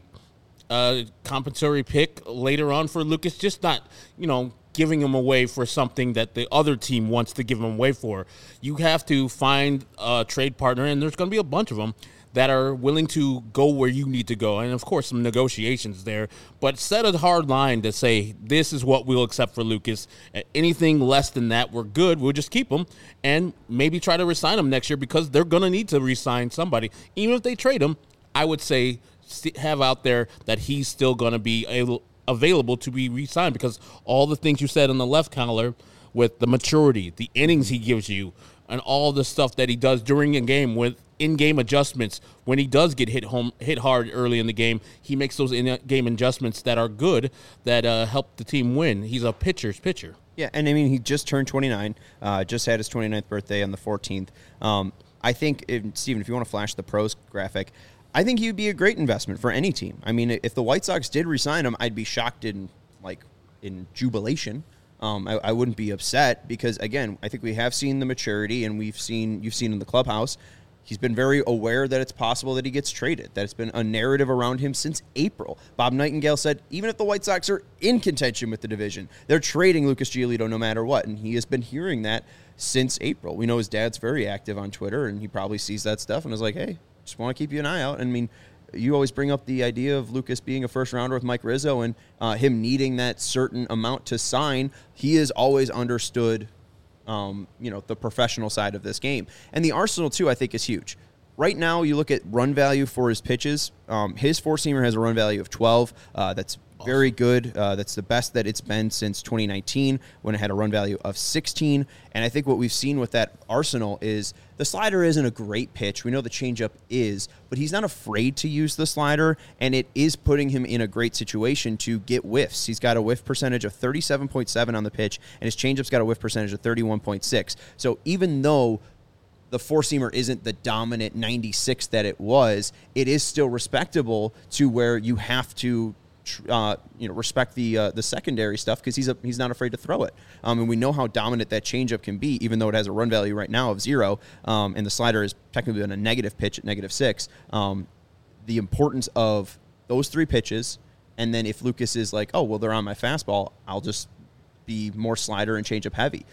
uh, compensatory pick later on for Lucas, just not, you know, giving him away for something that the other team wants to give him away for. You have to find a trade partner, and there's going to be a bunch of them that are willing to go where you need to go. And, of course, some negotiations there. But set a hard line to say, this is what we'll accept for Lucas. Anything less than that, we're good. We'll just keep him and maybe try to re-sign him next year because they're going to need to re-sign somebody. Even if they trade him, I would say have out there that he's still going to be able, available to be re-signed because all the things you said on the left collar with the maturity, the innings he gives you, and all the stuff that he does during a game with in-game adjustments. When he does get hit home, hit hard early in the game, he makes those in-game adjustments that are good, that uh, help the team win. He's a pitcher's pitcher. Yeah, and I mean, he just turned twenty-nine, uh, just had his twenty-ninth birthday on the fourteenth. Um, I think, if, Steven, if you want to flash the pros graphic, I think he would be a great investment for any team. I mean, if the White Sox did re-sign him, I'd be shocked in, like, in jubilation. Um, I, I wouldn't be upset because, again, I think we have seen the maturity, and we've seen you've seen in the clubhouse. He's been very aware that it's possible that he gets traded, that it's been a narrative around him since April. Bob Nightingale said even if the White Sox are in contention with the division, they're trading Lucas Giolito no matter what, and he has been hearing that since April. We know his dad's very active on Twitter, and he probably sees that stuff and is like, hey, just want to keep you an eye out. And I mean, you always bring up the idea of Lucas being a first-rounder with Mike Rizzo and uh, him needing that certain amount to sign. He has always understood Um, you know, the professional side of this game. And the arsenal, too, I think is huge. Right now, you look at run value for his pitches. Um, his four-seamer has a run value of twelve. Uh, that's very good. Uh, that's the best that it's been since twenty nineteen when it had a run value of sixteen. And I think what we've seen with that arsenal is the slider isn't a great pitch. We know the changeup is, but he's not afraid to use the slider, and it is putting him in a great situation to get whiffs. He's got a whiff percentage of thirty-seven point seven on the pitch, and his changeup's got a whiff percentage of thirty-one point six. So even though the four-seamer isn't the dominant ninety-six that it was, it is still respectable to where you have to Uh, you know, respect the uh, the secondary stuff because he's a, he's not afraid to throw it. Um, and we know how dominant that changeup can be, even though it has a run value right now of zero, um, and the slider is technically on a negative pitch at negative six. Um, the importance of those three pitches, and then if Lucas is like, oh well, they're on my fastball, I'll just be more slider and changeup heavy. He just has really seemingly learned how to adapt to pitching. And I think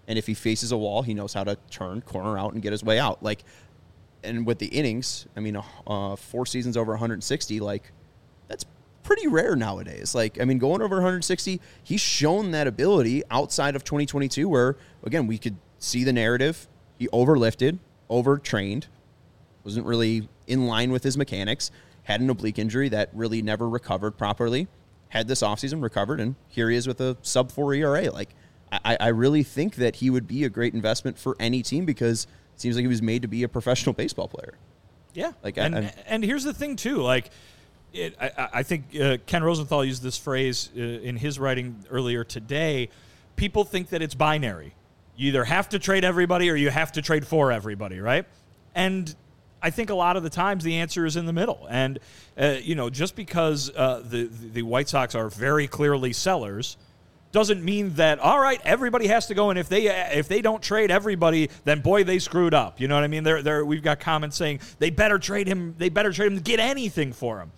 And if he faces a wall, he knows how to turn, corner out, and get his way out. Like, and with the innings, I mean, uh, four seasons over one hundred sixty, like, that's pretty rare nowadays. Like, I mean, going over one hundred sixty, he's shown that ability outside of twenty twenty-two where, again, we could see the narrative. He overlifted, overtrained, wasn't really in line with his mechanics, had an oblique injury that really never recovered properly, had this offseason, recovered, and here he is with a sub four E R A. Like, I, I really think that he would be a great investment for any team because it seems like he was made to be a professional baseball player. Yeah. Like, and, I, and here's the thing, too. Like, it, I, I think uh, Ken Rosenthal used this phrase uh, in his writing earlier today. People think that it's binary. You either have to trade everybody or you have to trade for everybody, right? And I think a lot of the times the answer is in the middle. And, uh, you know, just because uh, the, the White Sox are very clearly sellers doesn't mean that, all right, everybody has to go, and if they if they don't trade everybody, then boy, they screwed up. You know what I mean? They're, they're, we've got comments saying they better trade him, they better trade him to get anything for him.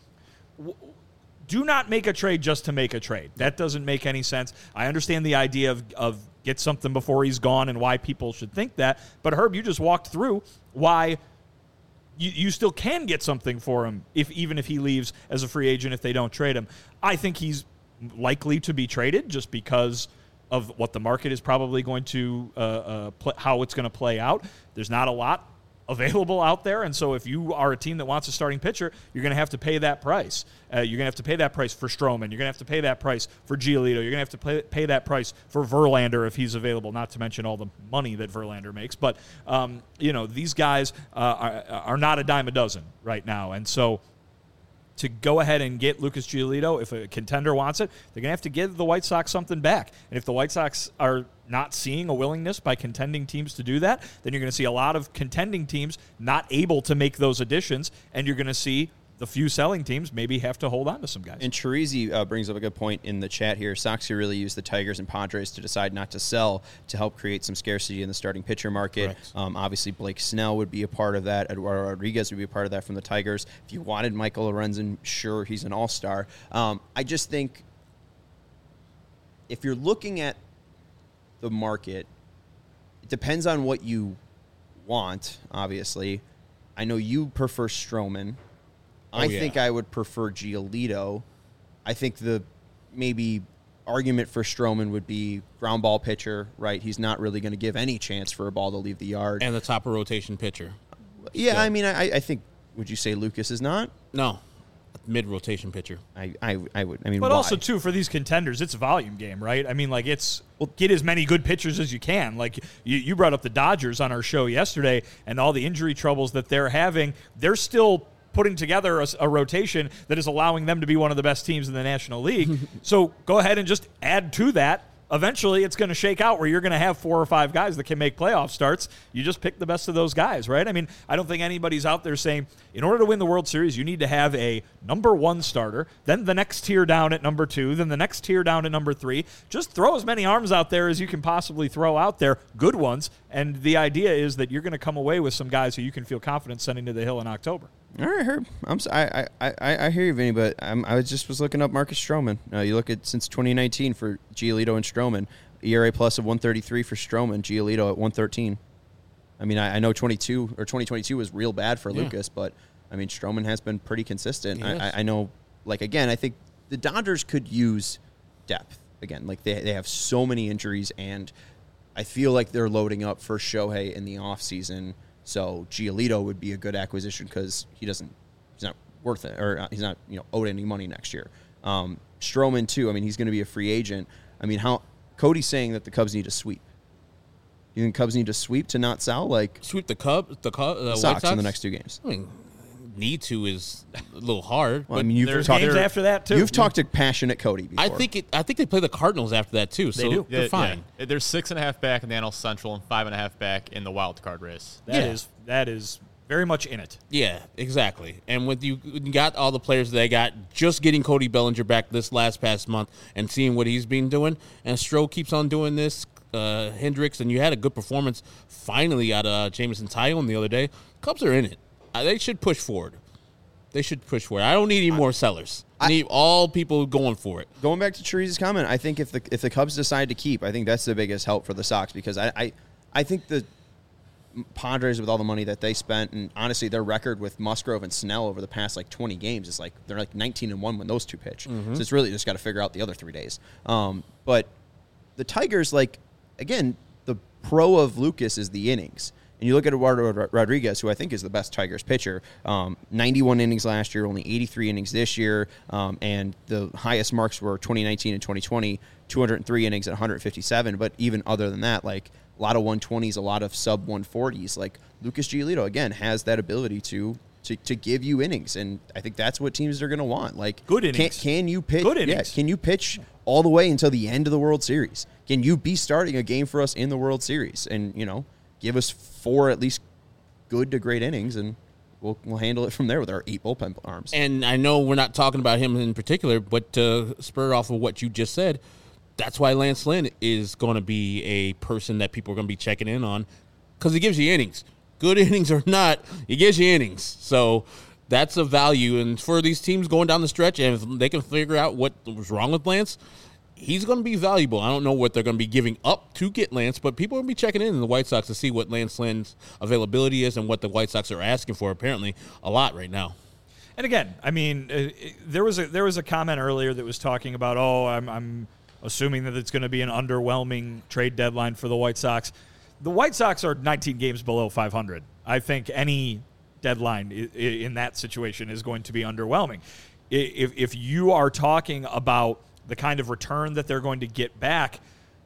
Do not make a trade just to make a trade. That doesn't make any sense. I understand the idea of, of get something before he's gone and why people should think that. But, Herb, you just walked through why you, you still can get something for him, if even if he leaves as a free agent if they don't trade him. I think he's likely to be traded just because of what the market is probably going to, uh, uh, pl- how it's going to play out. There's not a lot available out there, and so if you are a team that wants a starting pitcher, you're going to have to pay that price. Uh, you're going to have to pay that price for Stroman. You're going to have to pay that price for Giolito. You're going to have to pay, pay that price for Verlander if he's available, not to mention all the money that Verlander makes. But, um, you know, these guys uh, are, are not a dime a dozen right now, and so to go ahead and get Lucas Giolito, if a contender wants it, they're going to have to give the White Sox something back. And if the White Sox are not seeing a willingness by contending teams to do that, then you're going to see a lot of contending teams not able to make those additions, and you're going to see the few selling teams maybe have to hold on to some guys. And Chirizi uh, brings up a good point in the chat here. Sox could really use the Tigers and Padres to decide not to sell to help create some scarcity in the starting pitcher market. Um, obviously, Blake Snell would be a part of that. Eduardo Rodriguez would be a part of that from the Tigers. If you wanted Michael Lorenzen, sure, he's an all-star. Um, I just think if you're looking at the market, it depends on what you want, obviously. I know you prefer Stroman. Oh, I yeah. think I would prefer Giolito. I think the maybe argument for Stroman would be ground ball pitcher, right? He's not really going to give any chance for a ball to leave the yard. And the top of rotation pitcher. yeah, still. I mean, I, I think, would you say Lucas is not? No, mid-rotation pitcher. I, I, I would. I mean, But why? also, too, for these contenders, it's a volume game, right? I mean, like, it's well, get as many good pitchers as you can. Like, you, you brought up the Dodgers on our show yesterday, and all the injury troubles that they're having. They're still putting together a, a rotation that is allowing them to be one of the best teams in the National League. So go ahead and just add to that. Eventually, it's going to shake out where you're going to have four or five guys that can make playoff starts. You just pick the best of those guys, right? I mean, I don't think anybody's out there saying, in order to win the World Series, you need to have a number one starter, then the next tier down at number two, then the next tier down at number three. Just throw as many arms out there as you can possibly throw out there, good ones, and the idea is that you're going to come away with some guys who you can feel confident sending to the Hill in October. All right, Herb. I'm so, I, I, I, I hear you, Vinny, but I'm, I was just was looking up Marcus Stroman. Uh, you look at since twenty nineteen for Giolito and Stroman, E R A plus of one thirty-three for Stroman, Giolito at one thirteen. I mean, I, I know twenty-two or twenty twenty-two was real bad for Yeah. Lucas, but I mean, Stroman has been pretty consistent. I, Yes. I, I know, like again, I think the Dodgers could use depth again. Like they they have so many injuries, and I feel like they're loading up for Shohei in the offseason. So Giolito would be a good acquisition because he doesn't, he's not worth it, or he's not, you know, owed any money next year. Um, Stroman too. I mean, he's going to be a free agent. I mean, how Cody's saying that the Cubs need to sweep. You think Cubs need to sweep to not sell? Like Sweep the Cubs, the, Cubs, the the White Sox Sox in the next two games. I mean, need to is a little hard. Well, I but mean, you've there's talked. Games after that, too. You've talked to passionate Cody before. I think it. I think they play the Cardinals after that too. So do. they're Yeah, fine. yeah. There's six and a half back in the N L Central and five and a half back in the wild card race. That Yeah. is that is very much in it. Yeah, exactly. And with you, you got all the players they got, just getting Cody Bellinger back this last past month and seeing what he's been doing, and Stroh keeps on doing this. Uh, Hendricks, and you had a good performance finally out of uh, Jameson Tyone the other day. Cubs are in it. Uh, they should push forward. They should push for it. I don't need any more sellers. I need all people going for it. Going back to Teresa's comment, I think if the if the Cubs decide to keep, I think that's the biggest help for the Sox because I I, I think the Padres with all the money that they spent and honestly their record with Musgrove and Snell over the past like twenty games is like they're like nineteen and one when those two pitch. Mm-hmm. So it's really just got to figure out the other three days. Um, but the Tigers, like again, the pro of Lucas is the innings. And you look at Eduardo Rodriguez, who I think is the best Tigers pitcher, um, ninety-one innings last year, only eighty-three innings this year, um, and the highest marks were twenty nineteen and twenty twenty, two hundred three innings at one hundred fifty-seven. But even other than that, like a lot of one twenties, a lot of sub one forties, like Lucas Giolito, again, has that ability to to, to give you innings. And I think that's what teams are going to want. Like Good innings. Can, can you pitch? Good innings. Yeah, can you pitch all the way until the end of the World Series? Can you be starting a game for us in the World Series? And, you know, give us four at least good to great innings, and we'll we'll handle it from there with our eight bullpen arms. And I know we're not talking about him in particular, but to spur off of what you just said, that's why Lance Lynn is going to be a person that people are going to be checking in on because he gives you innings. Good innings or not, he gives you innings. So that's a value. And for these teams going down the stretch, and if they can figure out what was wrong with Lance, he's going to be valuable. I don't know what they're going to be giving up to get Lance, but people are going to be checking in in the White Sox to see what Lance Lynn's availability is and what the White Sox are asking for, apparently, a lot right now. And again, I mean, uh, there was a there was a comment earlier that was talking about, oh, I'm, I'm assuming that it's going to be an underwhelming trade deadline for the White Sox. The White Sox are nineteen games below five hundred. I think any deadline i- in that situation is going to be underwhelming. If if you are talking about the kind of return that they're going to get back,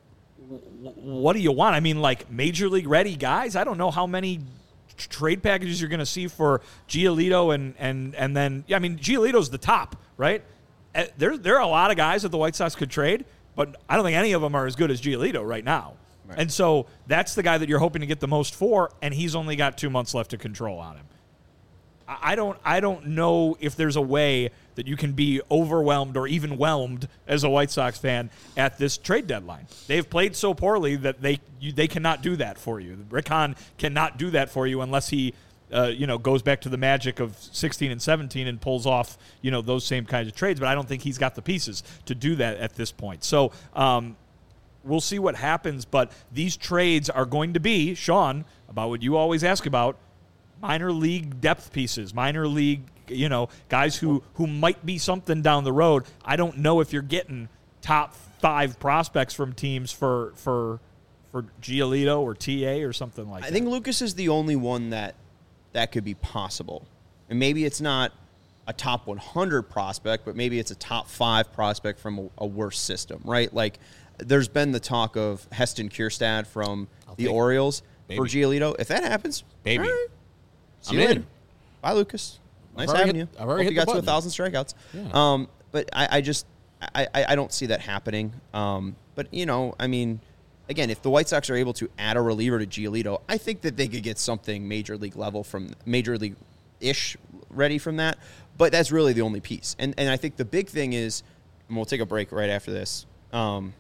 what do you want? I mean, like major league ready guys? I don't know how many t- trade packages you're going to see for Giolito and and and then yeah, I mean Giolito's the top, right? Uh, There there are a lot of guys that the White Sox could trade, but I don't think any of them are as good as Giolito right now. Right. And so that's the guy that you're hoping to get the most for, and he's only got two months left to control on him. I don't I don't know if there's a way that you can be overwhelmed or even whelmed as a White Sox fan at this trade deadline. They've played so poorly that they you, they cannot do that for you. Rick Hahn cannot do that for you unless he uh, you know goes back to the magic of sixteen and seventeen and pulls off you know those same kinds of trades. But I don't think he's got the pieces to do that at this point. So um, we'll see what happens. But these trades are going to be, Sean, about what you always ask about, minor league depth pieces, minor league, you know, guys who, who might be something down the road. I don't know if you're getting top five prospects from teams for for for Giolito or T A or something like I that. I think Lucas is the only one that that could be possible. And maybe it's not a top one hundred prospect, but maybe it's a top five prospect from a, a worse system, right? Like, there's been the talk of Heston Kjerstad from I'll the take it. Orioles Baby. for Giolito. If that happens, Baby. all right. See I'm you in. later. Bye, Lucas. Nice already having hit- you. I've already Hope hit you the got to a button. thousand strikeouts. Yeah. Um, but I, I just I, I, I don't see that happening. Um, but you know, I mean, again, if the White Sox are able to add a reliever to Giolito, I think that they could get something major league level from major league ish ready from that. But that's really the only piece. And and I think the big thing is, and we'll take a break right after this. Um,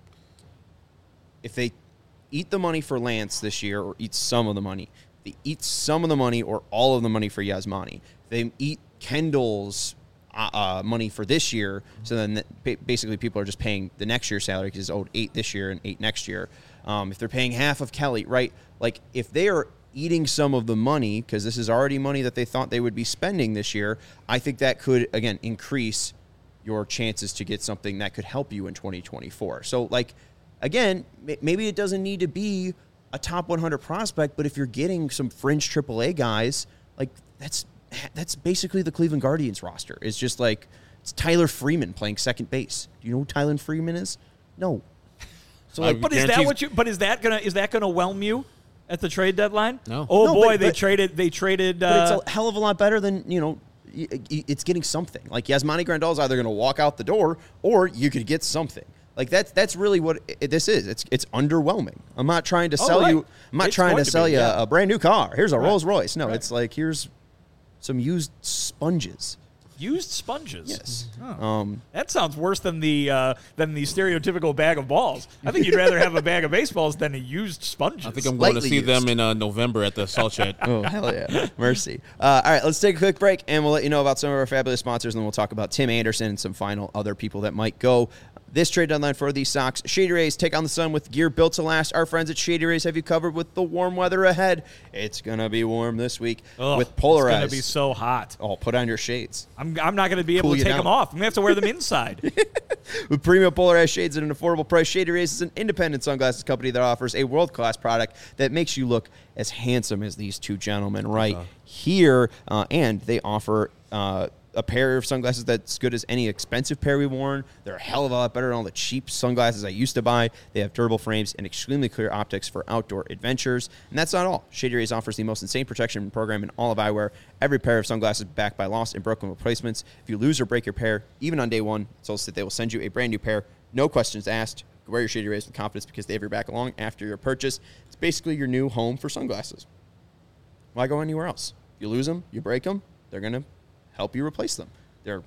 if they eat the money for Lance this year, or eat some of the money, they eat some of the money or all of the money for Yasmani. They eat Kendall's uh, uh, money for this year, so then that ba- basically people are just paying the next year's salary because he's owed eight this year and eight next year. Um, if they're paying half of Kelly, right? Like, if they are eating some of the money, because this is already money that they thought they would be spending this year, I think that could, again, increase your chances to get something that could help you in twenty twenty-four. So, like, again, m- maybe it doesn't need to be a top one hundred prospect, but if you're getting some fringe triple A guys, like, that's that's basically the Cleveland Guardians roster. It's just like, it's Tyler Freeman playing second base. Do you know who Tyler Freeman is? No. So, like, But is that Guarantees- what you? But is that gonna is that gonna whelm you at the trade deadline? No. Oh No, boy, but- they but- traded. They traded. but Uh, it's a hell of a lot better than, you know, y- y- it's getting something. Like, Yasmani Grandal is either going to walk out the door or you could get something. Like, that's that's really what it, this is. It's it's underwhelming. I'm not trying to Oh, sell right. you. I'm not It's trying going to to sell be, you yeah. a brand new car. Here's a Right. Rolls Royce. No, Right. it's like, here's some used sponges. Used sponges. Yes. Oh. Um, That sounds worse than the uh, than the stereotypical bag of balls. I think you'd rather have a bag of baseballs than a used sponges. I think I'm going to Slightly see used. them in uh, November at the Salt Shed. Oh, hell yeah. Mercy. Uh, all right, let's take a quick break, and we'll let you know about some of our fabulous sponsors, and then we'll talk about Tim Anderson and some final other people that might go. This trade deadline for these socks, Shady Rays take on the sun with gear built to last. Our friends at Shady Rays have you covered with the warm weather ahead. It's going to be warm this week Ugh, with Polarized. It's going to be so hot. Oh, put on your shades. I'm, I'm not going to be able Cool to you take down. them off. I'm going to have to wear them inside. With premium polarized shades at an affordable price, Shady Rays is an independent sunglasses company that offers a world-class product that makes you look as handsome as these two gentlemen right Uh-huh. here. Uh, and they offer uh, a pair of sunglasses that's good as any expensive pair we've worn. They're a hell of a lot better than all the cheap sunglasses I used to buy. They have durable frames and extremely clear optics for outdoor adventures. And that's not all. Shady Rays offers the most insane protection program in all of eyewear. Every pair of sunglasses backed by lost and broken replacements. If you lose or break your pair, even on day one, it's also that they will send you a brand new pair. No questions asked. Wear your Shady Rays with confidence because they have your back along after your purchase. It's basically your new home for sunglasses. Why go anywhere else? You lose them, you break them, they're going to help you replace them. They're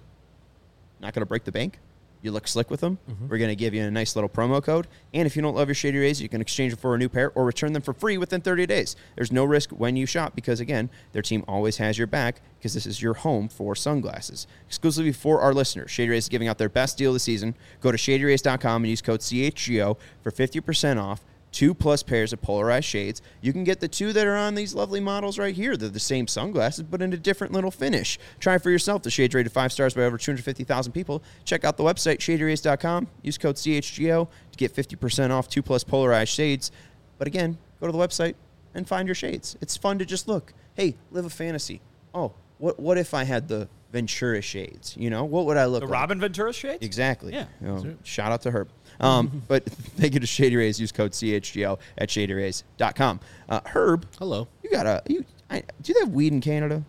not going to break the bank. You look slick with them. Mm-hmm. We're going to give you a nice little promo code. And if you don't love your Shady Rays, you can exchange them for a new pair or return them for free within thirty days. There's no risk when you shop because, again, their team always has your back because this is your home for sunglasses. Exclusively for our listeners, Shady Rays is giving out their best deal of the season. Go to shady rays dot com and use code C H G O for fifty percent off. Two plus pairs of polarized shades. You can get the two that are on these lovely models right here. They're the same sunglasses, but in a different little finish. Try it for yourself. The shade's rated five stars by over two hundred fifty thousand people. Check out the website, shady rays dot com. Use code C H G O to get fifty percent off two plus polarized shades. But again, go to the website and find your shades. It's fun to just look. Hey, live a fantasy. Oh, what what if I had the Ventura shades? You know, what would I look The like? Robin Ventura shades? Exactly. Yeah. You know, shout out to Herb. Um, but thank you to Shady Rays. Use code C H G O at shady rays dot com. Uh, Herb, Hello. you got a you? I, do they have weed in Canada?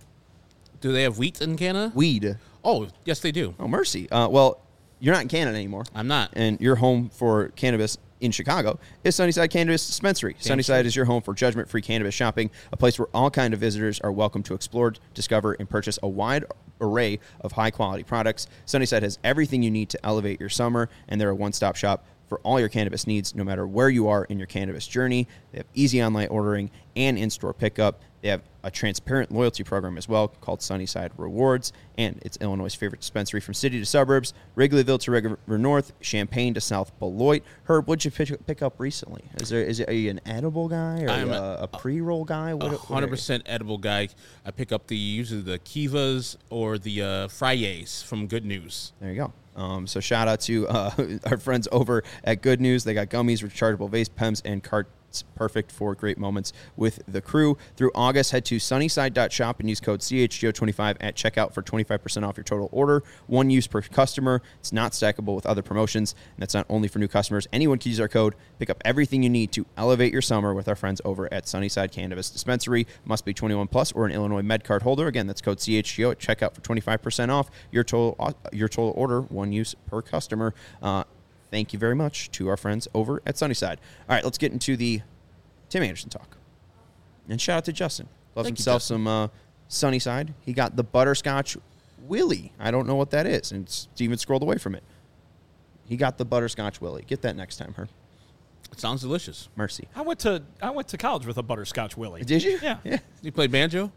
Do they have wheat in Canada? Weed. Oh, yes, they do. Oh, mercy. Uh, well, you're not in Canada anymore, I'm not. and your home for cannabis in Chicago is Sunnyside Cannabis Dispensary. Sunnyside is your home for judgment-free cannabis shopping, a place where all kind of visitors are welcome to explore, discover, and purchase a wide array of high-quality products. Sunnyside has everything you need to elevate your summer, and they're a one-stop shop for all your cannabis needs, no matter where you are in your cannabis journey. They have easy online ordering and in-store pickup. They have a transparent loyalty program as well called Sunnyside Rewards, and it's Illinois' favorite dispensary from city to suburbs, Wrigleyville to River North, Champaign to South Beloit. Herb, what'd you pick, pick up recently? Is there is it, are you an edible guy or I'm a, a- a pre-roll guy? What, A what are hundred you? percent edible guy. I pick up the usually the Kivas or the uh, Fryes from Good News. There you go. Um, so shout out to uh, our friends over at Good News. They got gummies, rechargeable vapes, Pems, and carts. Perfect for great moments with the crew. Through August, head to sunnyside dot shop and use code C H G O twenty-five at checkout for twenty-five percent off your total order. One use per customer. It's not stackable with other promotions, and that's not only for new customers. Anyone can use our code. Pick up everything you need to elevate your summer with our friends over at Sunnyside Cannabis Dispensary. Must be twenty-one plus or an Illinois Med Card holder. Again, that's code C H G O at checkout for twenty-five percent off your total your total order. One use per customer. Uh, Thank you very much to our friends over at Sunnyside. All right, let's get into the Tim Anderson talk. And shout out to Justin. Loves Thank you, himself Justin. some uh, Sunnyside. He got the Butterscotch Willy. I don't know what that is. And Steven scrolled away from it. He got the Butterscotch Willy. Get that next time, her. It sounds delicious. Mercy. I went to I went to college with a butterscotch Willie. Did you? Yeah. Yeah. You play banjo?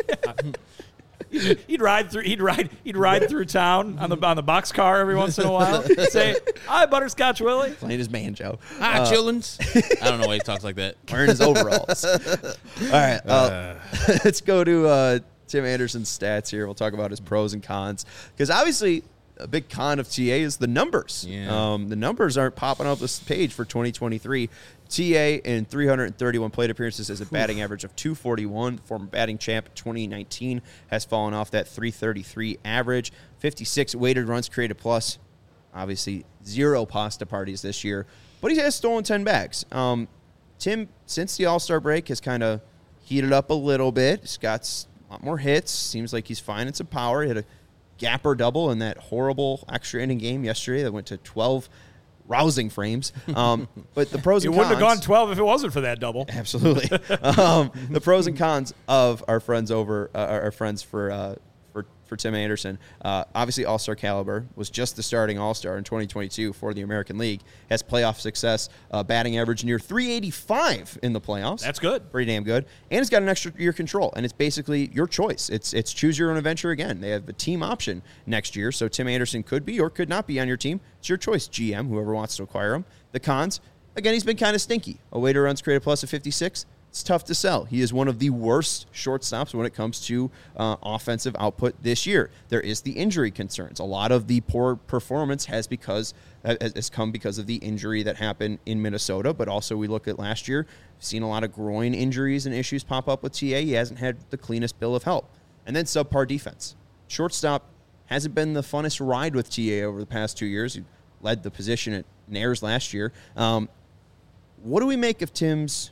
He'd ride through. He'd ride. He'd ride through town on the on the box car every once in a while. Say, "Hi, Butterscotch Willie." Playing his banjo. Ah, chillins. I don't know why he talks like that. Wearing his overalls. All right. Uh, let's go to uh, Tim Anderson's stats here. We'll talk about his pros and cons. Because obviously, a big con of T A is the numbers. Yeah. Um, the numbers aren't popping up this page for twenty twenty-three. T A in three hundred thirty-one plate appearances has a batting average of two forty-one. Former batting champ twenty nineteen has fallen off that three thirty-three average. fifty-six weighted runs created plus. Obviously, zero pasta parties this year. But he has stolen ten bags. Um, Tim, since the All-Star break, has kind of heated up a little bit. He's got a lot more hits. Seems like he's finding some power. He had a gapper double in that horrible extra inning game yesterday that went to twelve rousing frames. Um, but the pros You and wouldn't have cons. gone twelve if it wasn't for that double. Absolutely. um, the pros and cons of our friends over uh, our friends for uh, for for Tim Anderson. Uh, obviously, all-star caliber, was just the starting all-star in twenty twenty-two for the American League. Has playoff success, uh, batting average near three eighty-five in the playoffs. That's good. Pretty damn good. And it's got an extra year control, and it's basically your choice. It's it's choose your own adventure again. They have a team option next year, so Tim Anderson could be or could not be on your team. It's your choice, G M, whoever wants to acquire him. The cons, again, he's been kind of stinky. A weighted runs created plus of fifty-six. It's tough to sell. He is one of the worst shortstops when it comes to uh, offensive output this year. There is the injury concerns. A lot of the poor performance has because has come because of the injury that happened in Minnesota, but also we look at last year, we've seen a lot of groin injuries and issues pop up with T A. He hasn't had the cleanest bill of health. And then subpar defense. Shortstop hasn't been the funnest ride with T A over the past two years. He led the position at Nares last year. Um, what do we make of Tim's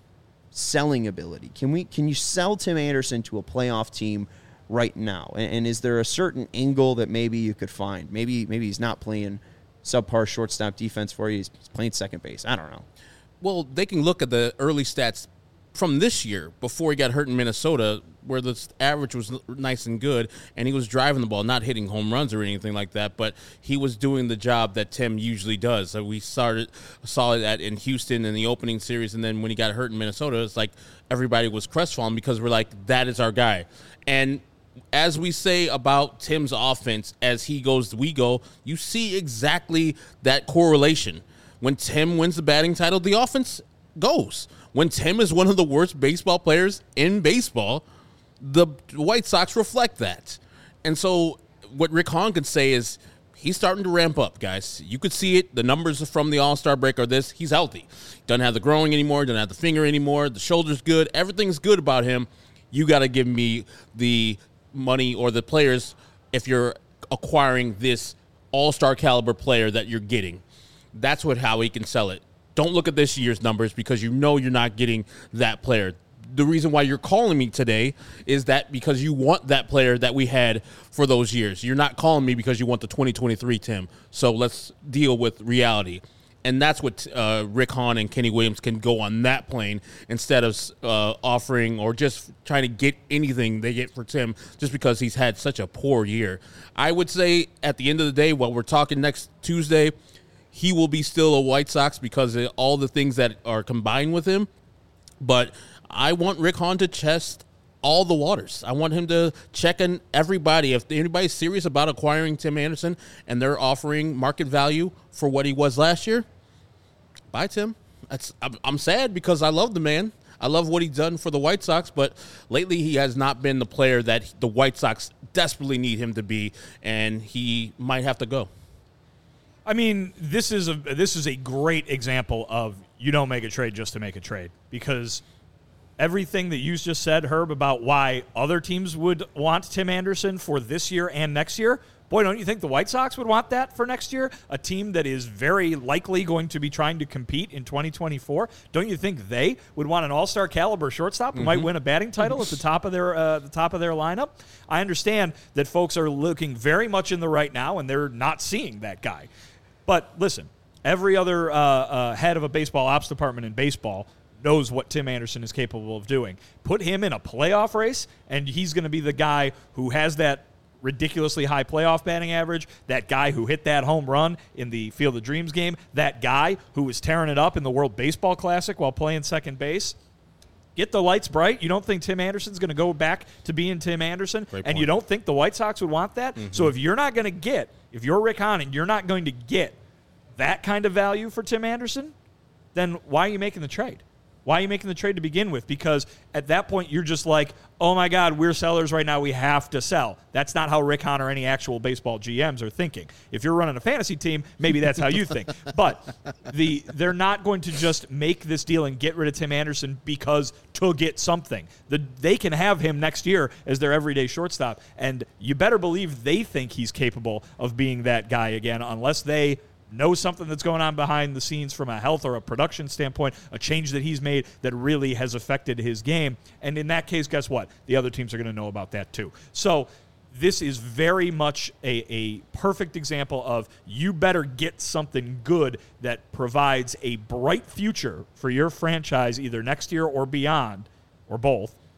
selling ability? Can we can you sell Tim Anderson to a playoff team right now? And, and is there a certain angle that maybe you could find? Maybe maybe he's not playing subpar shortstop defense for you. He's playing second base. I don't know. Well, they can look at the early stats from this year before he got hurt in Minnesota, where the average was nice and good, and he was driving the ball, not hitting home runs or anything like that, but he was doing the job that Tim usually does. So we started saw that in Houston in the opening series, and then when he got hurt in Minnesota, it's like everybody was crestfallen because we're like, that is our guy. And as we say about Tim's offense, as he goes, we go, you see exactly that correlation. When Tim wins the batting title, the offense goes. When Tim is one of the worst baseball players in baseball, the White Sox reflect that. And so what Rick Hahn could say is he's starting to ramp up, guys. You could see it. The numbers from the All-Star break are this. He's healthy. Doesn't have the growing anymore. Doesn't have the finger anymore. The shoulder's good. Everything's good about him. You got to give me the money or the players if you're acquiring this All-Star caliber player that you're getting. That's what how he can sell it. Don't look at this year's numbers because you know you're not getting that player. The reason why you're calling me today is that because you want that player that we had for those years. You're not calling me because you want the twenty twenty-three Tim. So let's deal with reality. And that's what uh, Rick Hahn and Kenny Williams can go on that plane instead of uh, offering or just trying to get anything they get for Tim just because he's had such a poor year. I would say at the end of the day, while we're talking next Tuesday, he will be still a White Sox because of all the things that are combined with him. But I want Rick Hahn to test all the waters. I want him to check in everybody. If anybody's serious about acquiring Tim Anderson and they're offering market value for what he was last year, buy Tim. That's, I'm, I'm sad because I love the man. I love what he's done for the White Sox, but lately he has not been the player that the White Sox desperately need him to be, and he might have to go. I mean, this is a this is a great example of you don't make a trade just to make a trade, because everything that you just said, Herb, about why other teams would want Tim Anderson for this year and next year, boy, don't you think the White Sox would want that for next year? A team that is very likely going to be trying to compete in twenty twenty-four. Don't you think they would want an all-star caliber shortstop who mm-hmm. might win a batting title at the top of their uh, the top of their lineup? I understand that folks are looking very much in the right now, and they're not seeing that guy. But listen, every other uh, uh, head of a baseball ops department in baseball knows what Tim Anderson is capable of doing. Put him in a playoff race, and he's going to be the guy who has that ridiculously high playoff batting average, that guy who hit that home run in the Field of Dreams game, that guy who was tearing it up in the World Baseball Classic while playing second base. Get the lights bright. You don't think Tim Anderson's going to go back to being Tim Anderson, and you don't think the White Sox would want that? Mm-hmm. So if you're not going to get, if you're Rick Hahn and you're not going to get that kind of value for Tim Anderson, then why are you making the trade? Why are you making the trade to begin with? Because at that point, you're just like, oh, my God, we're sellers right now. We have to sell. That's not how Rick Hahn or any actual baseball G Ms are thinking. If you're running a fantasy team, maybe that's how you think. But the they're not going to just make this deal and get rid of Tim Anderson because to get something. The, they can have him next year as their everyday shortstop, and you better believe they think he's capable of being that guy again, unless they know something that's going on behind the scenes from a health or a production standpoint, a change that he's made that really has affected his game. And in that case, guess what? The other teams are going to know about that too. So this is very much a, a perfect example of you better get something good that provides a bright future for your franchise either next year or beyond, or both,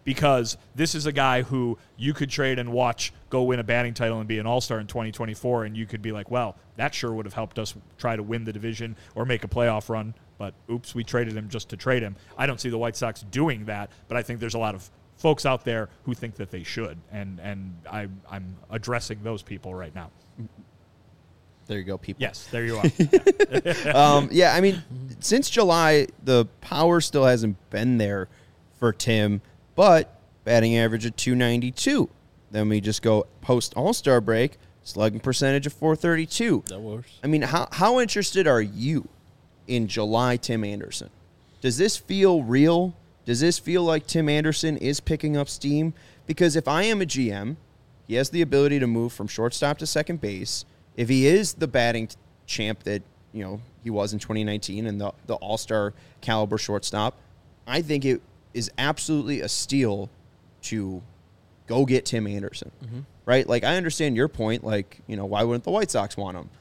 because this is a guy who you could trade and watch go win a batting title and be an all-star in twenty twenty-four, and you could be like, well, that sure would have helped us try to win the division or make a playoff run, but oops, we traded him just to trade him. I don't see the White Sox doing that, but I think there's a lot of folks out there who think that they should, and, and I, I'm addressing those people right now. There you go, people. Yes, there you are. um, yeah, I mean, since July, the power still hasn't been there for Tim, but batting average of two ninety-two. Then we just go post All-Star break, slugging percentage of four thirty-two. That works. I mean, how how interested are you in July Tim Anderson? Does this feel real? Does this feel like Tim Anderson is picking up steam? Because if I am a G M, he has the ability to move from shortstop to second base. If he is the batting champ that, you know, he was in twenty nineteen and the, the all-star caliber shortstop, I think it is absolutely a steal to go get Tim Anderson, mm-hmm. right? Like, I understand your point. Like, you know, why wouldn't the White Sox want him?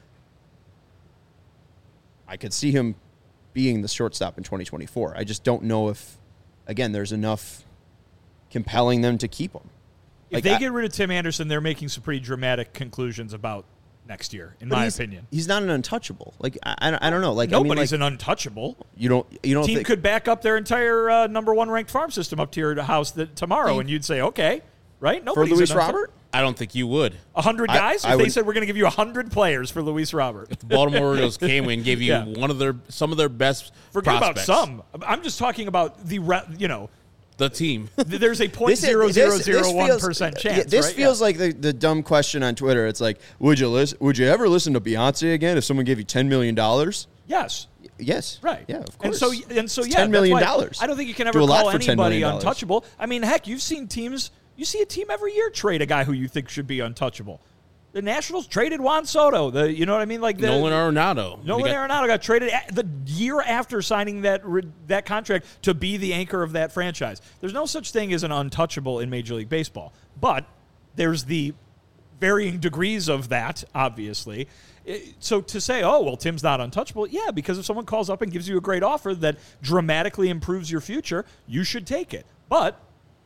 I could see him being the shortstop in twenty twenty-four. I just don't know if, again, there's enough compelling them to keep him. If Like, they I, get rid of Tim Anderson, they're making some pretty dramatic conclusions about next year, in my he's, opinion. He's not an untouchable. Like, I, I, don't, I don't know. Like, Nobody's I mean, like, an untouchable. You don't. You don't. Team think, could back up their entire uh, number one ranked farm system up to your house that tomorrow, Think- and you'd say, okay, right? for Nobody's Luis an untouch- Robert. I don't think you would. A hundred I- guys? I if they would- said we're going to give you a hundred players for Luis Robert. The Baltimore Orioles came and gave you Yeah. one of their some of their best Forget prospects. about some. I'm just talking about the, re- you know, The team. th- there's a point This is- zero zero this- zero this one feels- percent yeah, chance. This right? feels Yeah. like the, the dumb question on Twitter. It's like, would you listen? Would you ever listen to Beyonce again if someone gave you ten million dollars? Yes. Yes. Right. Yeah. Of And course. so, and so, It's yeah, ten million that's why dollars. I don't think you can Do ever a lot call for ten anybody million dollars. untouchable. I mean, heck, you've seen teams. You see a team every year trade a guy who you think should be untouchable. The Nationals traded Juan Soto. The you know what I mean, like the, Nolan Arenado. Nolan You got- Arenado got traded a- the year after signing that re- that contract to be the anchor of that franchise. There's no such thing as an untouchable in Major League Baseball, but there's the varying degrees of that, obviously. It- So to say, oh, well, Tim's not untouchable, yeah, because if someone calls up and gives you a great offer that dramatically improves your future, you should take it. But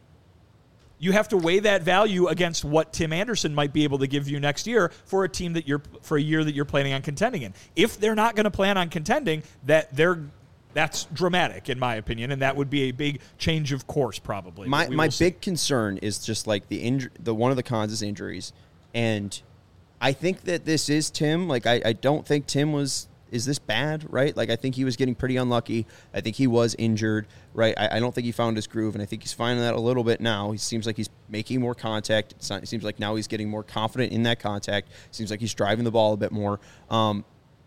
you have to weigh that value against what Tim Anderson might be able to give you next year for a team that you're for a year that you're planning on contending in. If they're not going to plan on contending, that they're that's dramatic in my opinion, and that would be a big change of course probably. My We my will see. big concern is just like the inj- the one of the cons is injuries, and I think that this is Tim. Like I, I don't think Tim was is this bad, right? Like I think he was getting pretty unlucky. I think he was injured, right? I, I don't think he found his groove, and I think he's finding that a little bit now. He seems like he's making more contact. It's not, it seems like now he's getting more confident in that contact. Seems like he's driving the ball a bit more. Um,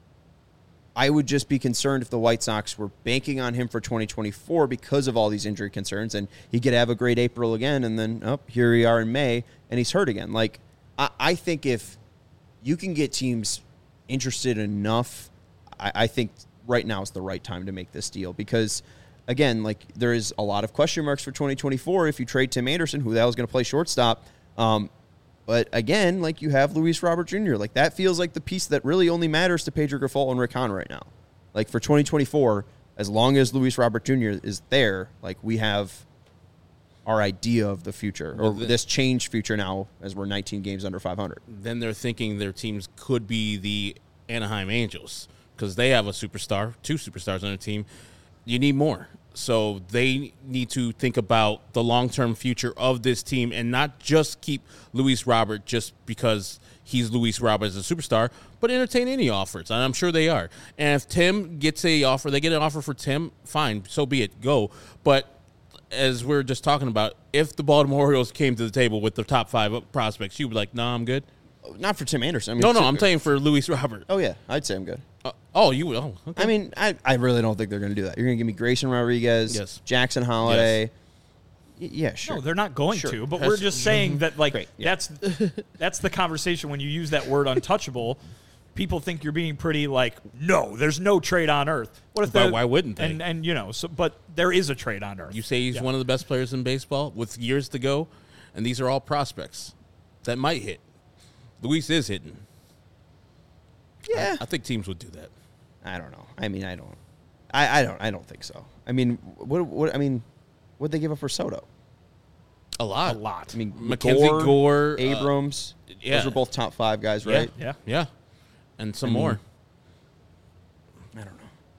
I would just be concerned if the White Sox were banking on him for twenty twenty-four because of all these injury concerns, and he could have a great April again, and then, oh, here we are in May, and he's hurt again. Like, I, I think if you can get teams interested enough, I, I think right now is the right time to make this deal because, again, like, there is a lot of question marks for twenty twenty-four if you trade Tim Anderson, who the hell is going to play shortstop. Um, But again, like you have Luis Robert Junior Like that feels like the piece that really only matters to Pedro Grifol and Rick Hahn right now. Like for twenty twenty-four, as long as Luis Robert Junior is there, like we have our idea of the future or Well, the- this changed future now as we're nineteen games under five hundred. Then they're thinking their teams could be the Anaheim Angels because they have a superstar, two superstars on their team. You need more. So they need to think about the long-term future of this team and not just keep Luis Robert just because he's Luis Robert as a superstar, but entertain any offers, and I'm sure they are. And if Tim gets a offer, they get an offer for Tim, fine, so be it, go. But as we're just talking about, if the Baltimore Orioles came to the table with the top five prospects, you would be like, no, nah, I'm good. Not for Tim Anderson. I mean, No, no, Tim- I'm saying for Luis Robert. Oh yeah, I'd say I'm good. Uh, oh, you would. Oh, okay. I mean, I, I really don't think they're going to do that. You're going to give me Grayson Rodriguez, Yes. Jackson Holiday. Y- yeah, sure. No, they're not going Sure. to, but That's- we're just saying that, like, Great, yeah. that's that's the conversation when you use that word untouchable. People think you're being pretty like, no, there's no trade on earth. What if Why- the- why wouldn't they? And and you know, so but there is a trade on earth. You say he's Yeah. one of the best players in baseball with years to go, and these are all prospects that might hit. Luis is hitting. Yeah. I, I think teams would do that. I don't know. I mean, I don't. I, I don't. I don't think so. I mean, what? What? I mean, what they give up for Soto? A lot. A lot. I mean, Mackenzie Gore, Gore, uh, Abrams. yeah. Those were both top five guys, Yeah. right? Yeah. Yeah. And some I mean, more. I don't know.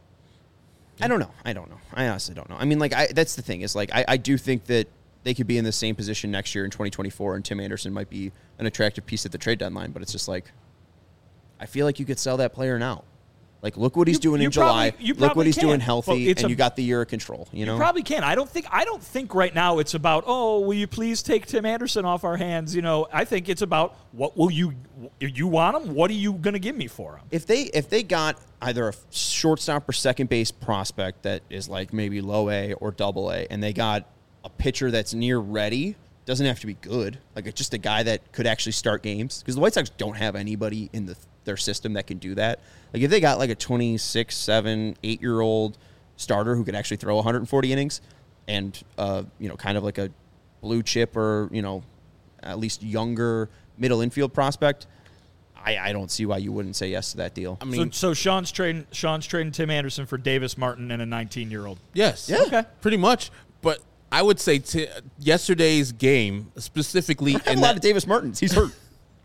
I don't know. I don't know. I honestly don't know. I mean, like, I, that's the thing is, like, I, I do think that they could be in the same position next year in twenty twenty-four, and Tim Anderson might be an attractive piece at the trade deadline, but it's just like, I feel like you could sell that player now. Like, look what he's You- doing you in July. probably- you Look what probably he's can. doing But healthy, it's and a- you got the year of control, you know? You probably can. I don't think. I don't think right now it's about. Oh, will you please take Tim Anderson off our hands? You know, I think it's about what will you. If you want him, what are you going to give me for him? If they if they got either a shortstop or second base prospect that is like maybe low A or double A, and they got a pitcher that's near ready, doesn't have to be good, like it's just a guy that could actually start games, because the White Sox don't have anybody in the their system that can do that. Like if they got like a twenty-six, seven, eight year old starter who could actually throw one hundred forty innings, and uh, you know, kind of like a blue chip or, you know, at least younger middle infield prospect, I, I don't see why you wouldn't say yes to that deal. I mean, so, so Sean's trading Sean's trading Tim Anderson for Davis Martin and a nineteen year old. yes. Yeah. Okay. Pretty much. But I would say t- yesterday's game, specifically I have in a lot that, of Davis Martins. He's hurt.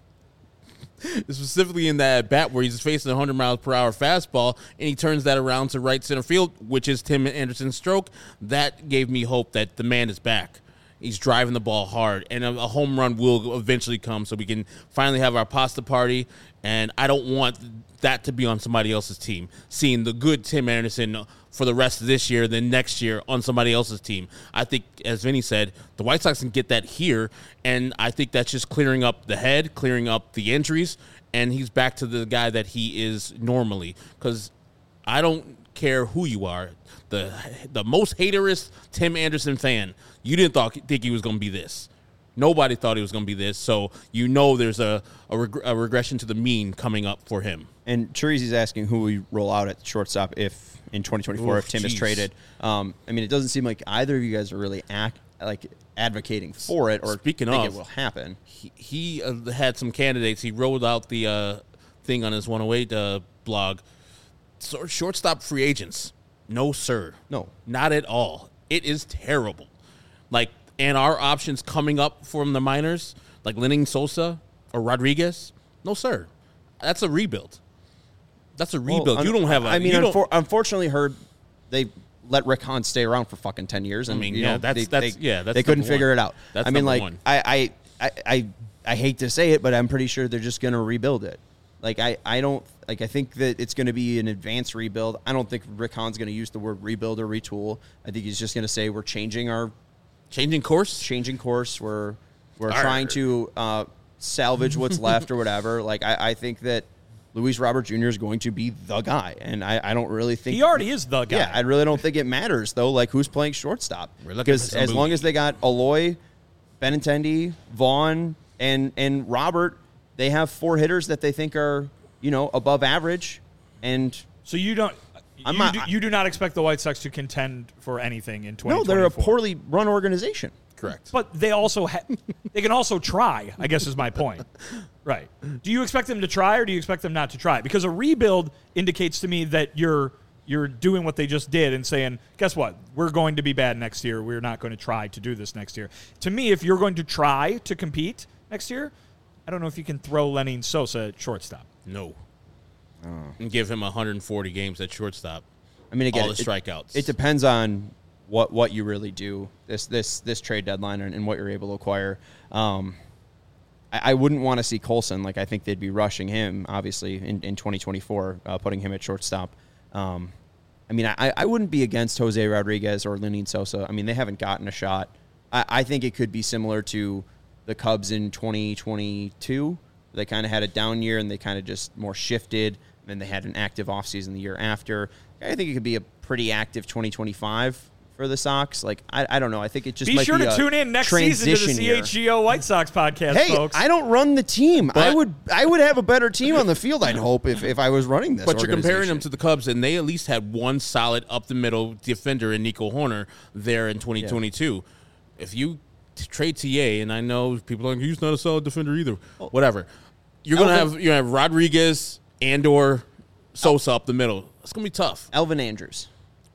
specifically in that bat where he's facing a hundred miles per hour fastball, and he turns that around to right center field, which is Tim Anderson's stroke. That gave me hope that the man is back. He's driving the ball hard, and a, a home run will eventually come, so we can finally have our pasta party. And I don't want that to be on somebody else's team. Seeing the good Tim Anderson for the rest of this year, then next year on somebody else's team. I think, as Vinny said, the White Sox can get that here, and I think that's just clearing up the head, clearing up the injuries, and he's back to the guy that he is normally. Because I don't care who you are, the the most haterist Tim Anderson fan, you didn't thought, think he was going to be this. Nobody thought he was going to be this, so you know there's a, a, reg- a regression to the mean coming up for him. And Chirizi's asking who we roll out at shortstop if in twenty twenty-four Oof, if Tim is geez. traded. Um, I mean, it doesn't seem like either of you guys are really act, like advocating for it or Speaking think of, it will happen. He, he uh, had some candidates. He rolled out the uh, thing on his one oh eight uh, blog. So, shortstop free agents. No, sir. No. Not at all. It is terrible. Like, and our options coming up from the minors, like Lenning Sosa or Rodriguez, no, sir. That's a rebuild. That's a rebuild. Well, you don't have a. I mean, you don't- unfor- unfortunately, heard they let Rick Hahn stay around for fucking ten years, and I mean, you yeah, know, that's- they, that's- they, yeah, that's they couldn't number figure one. it out. That's I mean, number like one. I, I, I, I, I hate to say it, but I'm pretty sure they're just going to rebuild it. Like I, I don't like. I think that it's going to be an advanced rebuild. I don't think Rick Hahn's going to use the word rebuild or retool. I think he's just going to say we're changing our changing course. changing course. We're we're Arr. trying to uh, salvage what's left or whatever. Like I, I think that Luis Robert Junior is going to be the guy, and I, I don't really think He already is the guy. Yeah, I really don't think it matters though. Like who's playing shortstop? We're looking Because for some as long booty. as they got Aloy, Benintendi, Vaughn, and and Robert, they have four hitters that they think are, you know, above average, and So you don't. I'm you, not- do, you do not expect the White Sox to contend for anything in twenty no, twenty-four. they're a poorly run organization. Correct. But they also ha- they can also try, I guess is my point. Right. Do you expect them to try or do you expect them not to try? Because a rebuild indicates to me that you're you're doing what they just did and saying, guess what? We're going to be bad next year. We're not going to try to do this next year. To me, if you're going to try to compete next year, I don't know if you can throw Lenny Sosa at shortstop. No. Oh. And give him one hundred forty games at shortstop. I mean, again, All the it- strikeouts. It, depends on what what you really do this this this trade deadline and, and what you're able to acquire. Um, I, I wouldn't want to see Colson. Like I think they'd be rushing him, obviously, in, in twenty twenty-four, uh, putting him at shortstop. Um, I mean, I, I wouldn't be against Jose Rodriguez or Lenny Sosa. I mean, they haven't gotten a shot. I, I think it could be similar to the Cubs in twenty twenty-two. They kind of had a down year and they kind of just more shifted. And then they had an active offseason the year after. I think it could be a pretty active twenty twenty-five for the Sox. Like, I, I don't know. I think it just Be might sure be to a tune in next season to the transition C year. H G O White Sox podcast, Hey, folks. I don't run the team. I But- would I would have a better team on the field, I'd hope, if, if I was running this. But you're comparing them organization. to the Cubs, and they at least had one solid up the middle defender in Nico Horner there in twenty twenty-two. If you t- trade T A, and I know people are like, he's not a solid defender either. Whatever. You're gonna Elvin- have you have Rodriguez, Andor, Sosa up the middle. It's gonna be tough. Elvin Andrews.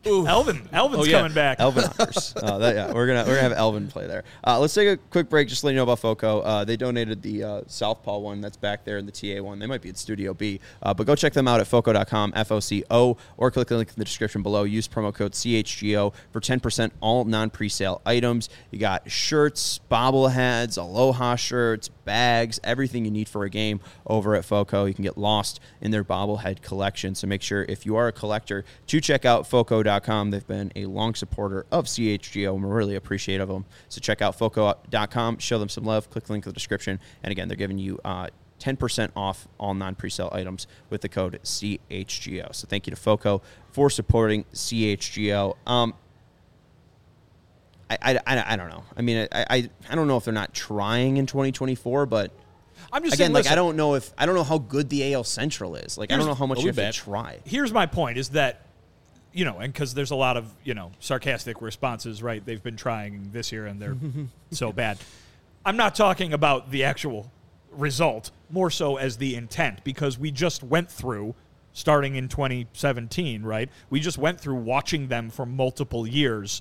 Elvin. Elvin's Oh, yeah. coming back. Elvin Honors. uh, that, yeah, we're gonna we're gonna have Elvin play there. Uh, let's take a quick break. Just to let you know about FOCO. Uh, they donated the uh, Southpaw one that's back there and the T A one. They might be at Studio B, uh, but go check them out at foco dot com, F O C O, or click the link in the description below. Use promo code C H G O for ten percent all non-presale items. You got shirts, bobbleheads, Aloha shirts, bags, everything you need for a game over at FOCO. You can get lost in their bobblehead collection. So make sure if you are a collector to check out foco dot com. They've been a long supporter of C H G O, and we're really appreciative of them. So check out foco dot com, show them some love, click the link in the description, and again, they're giving you uh, ten percent off all non-presale items with the code C H G O. So thank you to FOCO for supporting C H G O. Um, I, I, I, I don't know. I mean, I, I I don't know if they're not trying in twenty twenty-four, but I'm just again, saying, like listen, I don't know if I don't know how good the A L Central is. Like I don't know how much you have to try. Here's my point: is that you know, and because there's a lot of you know sarcastic responses, right? They've been trying this year and they're so bad. I'm not talking about the actual result, more so as the intent, because we just went through, starting in twenty seventeen, right? We just went through watching them for multiple years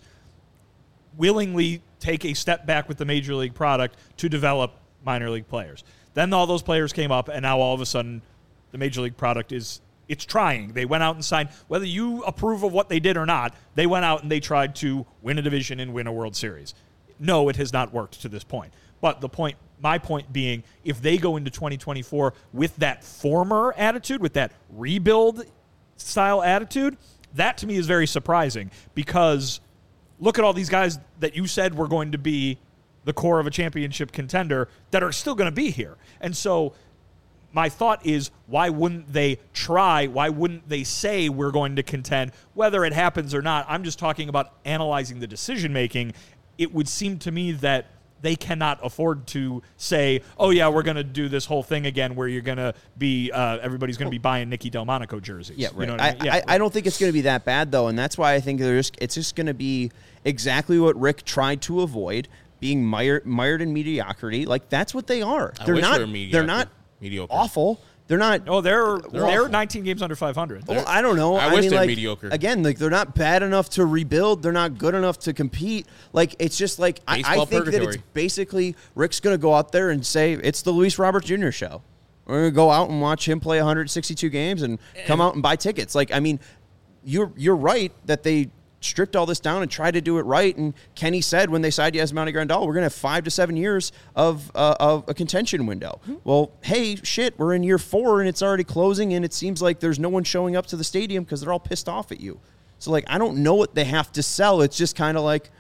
willingly take a step back with the major league product to develop minor league players. Then all those players came up, and now all of a sudden the major league product is it's trying. They went out and signed, whether you approve of what they did or not, they went out and they tried to win a division and win a World Series. No, it has not worked to this point. But the point, my point being, if they go into twenty twenty-four with that former attitude, with that rebuild style attitude, that to me is very surprising, because look at all these guys that you said were going to be the core of a championship contender that are still going to be here. And so my thought is, why wouldn't they try? Why wouldn't they say we're going to contend? Whether it happens or not, I'm just talking about analyzing the decision-making. It would seem to me that they cannot afford to say, oh, yeah, we're going to do this whole thing again where you're going to be, uh, everybody's going to be buying Nicky Delmonico jerseys. Yeah, right. You know what I, I, mean? yeah. I, I don't think it's going to be that bad, though, and that's why I think they're just, it's just going to be exactly what Rick tried to avoid, being mired, mired in mediocrity. Like, that's what they are. I They're wish not, they were mediocre. they're not Mediocre. awful. They're not. Oh, they're They're they're, awful. nineteen games under five hundred. Well, I don't know. I I, wish mean, they're like, mediocre. Again, like they're not bad enough to rebuild. They're not good enough to compete. Like it's just like I, I Baseball think that purgatory. it's basically Rick's going to go out there and say it's the Luis Robert Junior show. We're going to go out and watch him play one hundred sixty-two games and come out and buy tickets. Like I mean, you're you're right that they stripped all this down and tried to do it right. And Kenny said when they signed Yasmani Grandal, we're going to have five to seven years of uh, of a contention window. Mm-hmm. Well, hey, shit, we're in year four and it's already closing, and it seems like there's no one showing up to the stadium because they're all pissed off at you. So, like, I don't know what they have to sell. It's just kind of like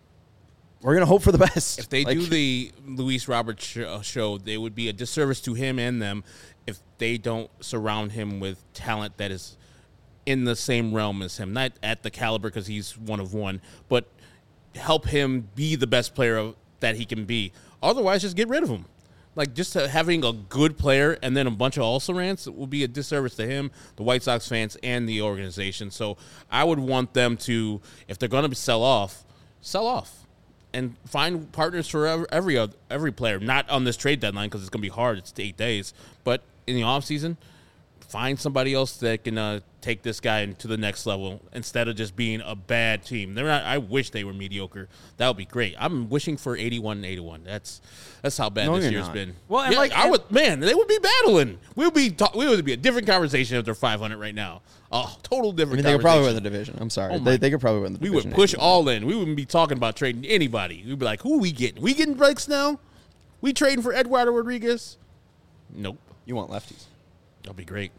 we're going to hope for the best. If they like, do the Luis Roberts show, show, they would be a disservice to him and them if they don't surround him with talent that is in the same realm as him, not at the caliber because he's one of one, but help him be the best player of, that he can be. Otherwise, just get rid of him. Like, just uh, having a good player and then a bunch of also-rans will be a disservice to him, the White Sox fans, and the organization. So I would want them to, if they're going to sell off, sell off and find partners for every every, other, every player. Not on this trade deadline because it's going to be hard. It's eight days. But in the offseason, find somebody else that can uh, take this guy to the next level instead of just being a bad team. They're not. I wish they were mediocre. That would be great. I'm wishing for eighty-one and eighty-one. That's that's how bad No, this you're year's not. been. Well, and Yeah, like- I would, man, they would be battling. We would be talk, we would be a different conversation if they're five hundred right now. Oh, total I different. mean, they could probably win conversation. the division. I'm sorry. Oh my- they, they could probably win the We division. would push all in. We wouldn't be talking about trading anybody. We'd be like, who are we getting? We getting Blake Snell? We trading for Eduardo Rodriguez? Nope. You want lefties. That'll be great.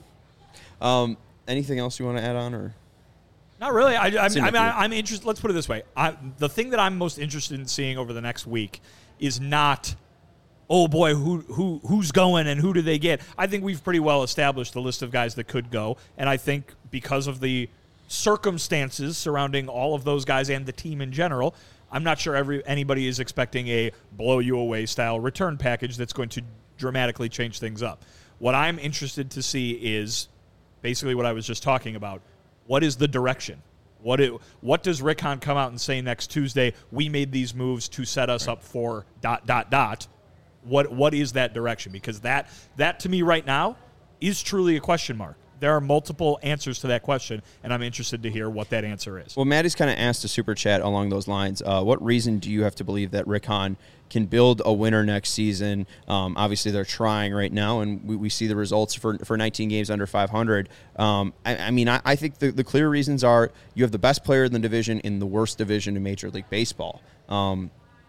Um, anything else you want to add on, or Not really. I, I, I Seemed mean, like I, you- I'm interested. Let's put it this way. I, the thing that I'm most interested in seeing over the next week is not, oh boy, who who who's going and who do they get? I think we've pretty well established the list of guys that could go, and I think because of the circumstances surrounding all of those guys and the team in general, I'm not sure every anybody is expecting a blow you away style return package that's going to dramatically change things up. What I'm interested to see is basically what I was just talking about. What is the direction? What it, what does Rick Hahn come out and say next Tuesday? We made these moves to set us up for dot dot dot. What what is that direction? Because that that to me right now is truly a question mark. there are multiple answers to that question, and I'm interested to hear what that answer is. Well, Maddie's kind of asked a super chat along those lines. Uh, what reason do you have to believe that Rick Hahn can build a winner next season? Um, obviously, they're trying right now, and we, we see the results for for nineteen games under five hundred. Um, I, I mean, I, I think the, the clear reasons are you have the best player in the division in the worst division in Major League Baseball. Um,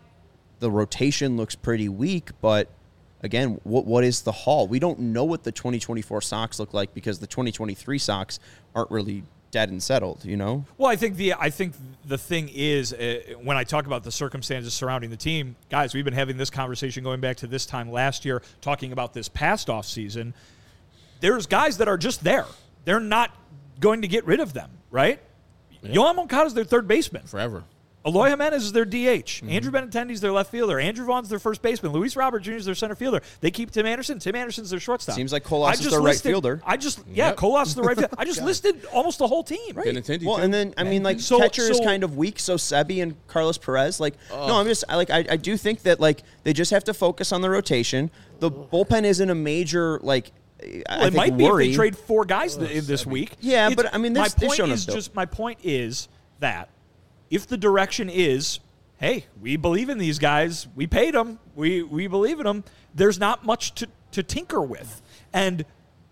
the rotation looks pretty weak, but again, what what is the haul? We don't know what the twenty twenty-four Sox look like because the twenty twenty-three Sox aren't really dead and settled, you know? Well, I think the I think the thing is, uh, when I talk about the circumstances surrounding the team, guys, we've been having this conversation going back to this time last year, talking about this past off season. There's guys that are just there. They're not going to get rid of them, right? Yeah. Yohan Moncada is their third baseman. Forever. Eloy Jimenez is their D H. Mm-hmm. Andrew Benintendi's their left fielder. Andrew Vaughn's their first baseman. Luis Robert Junior is their center fielder. They keep Tim Anderson. Tim Anderson's their shortstop. Seems like Colas is their right fielder. I just, yeah, Yep. Colas is the right fielder. I just listed almost the whole team. Right. Benintendi, Well, too. and then, I mean, like, So- catcher is so- kind of weak, so Sebi and Carlos Perez. Like, no, I'm just, I, like, I, I do think that, like, they just have to focus on the rotation. The bullpen isn't a major, like, I Well, it think might worry. be if they trade four guys th- this week. Yeah, It's- but, I mean, my this- they've point shown is us, though. just my point is that if the direction is, hey, we believe in these guys, we paid them, we we believe in them, there's not much to, to tinker with. And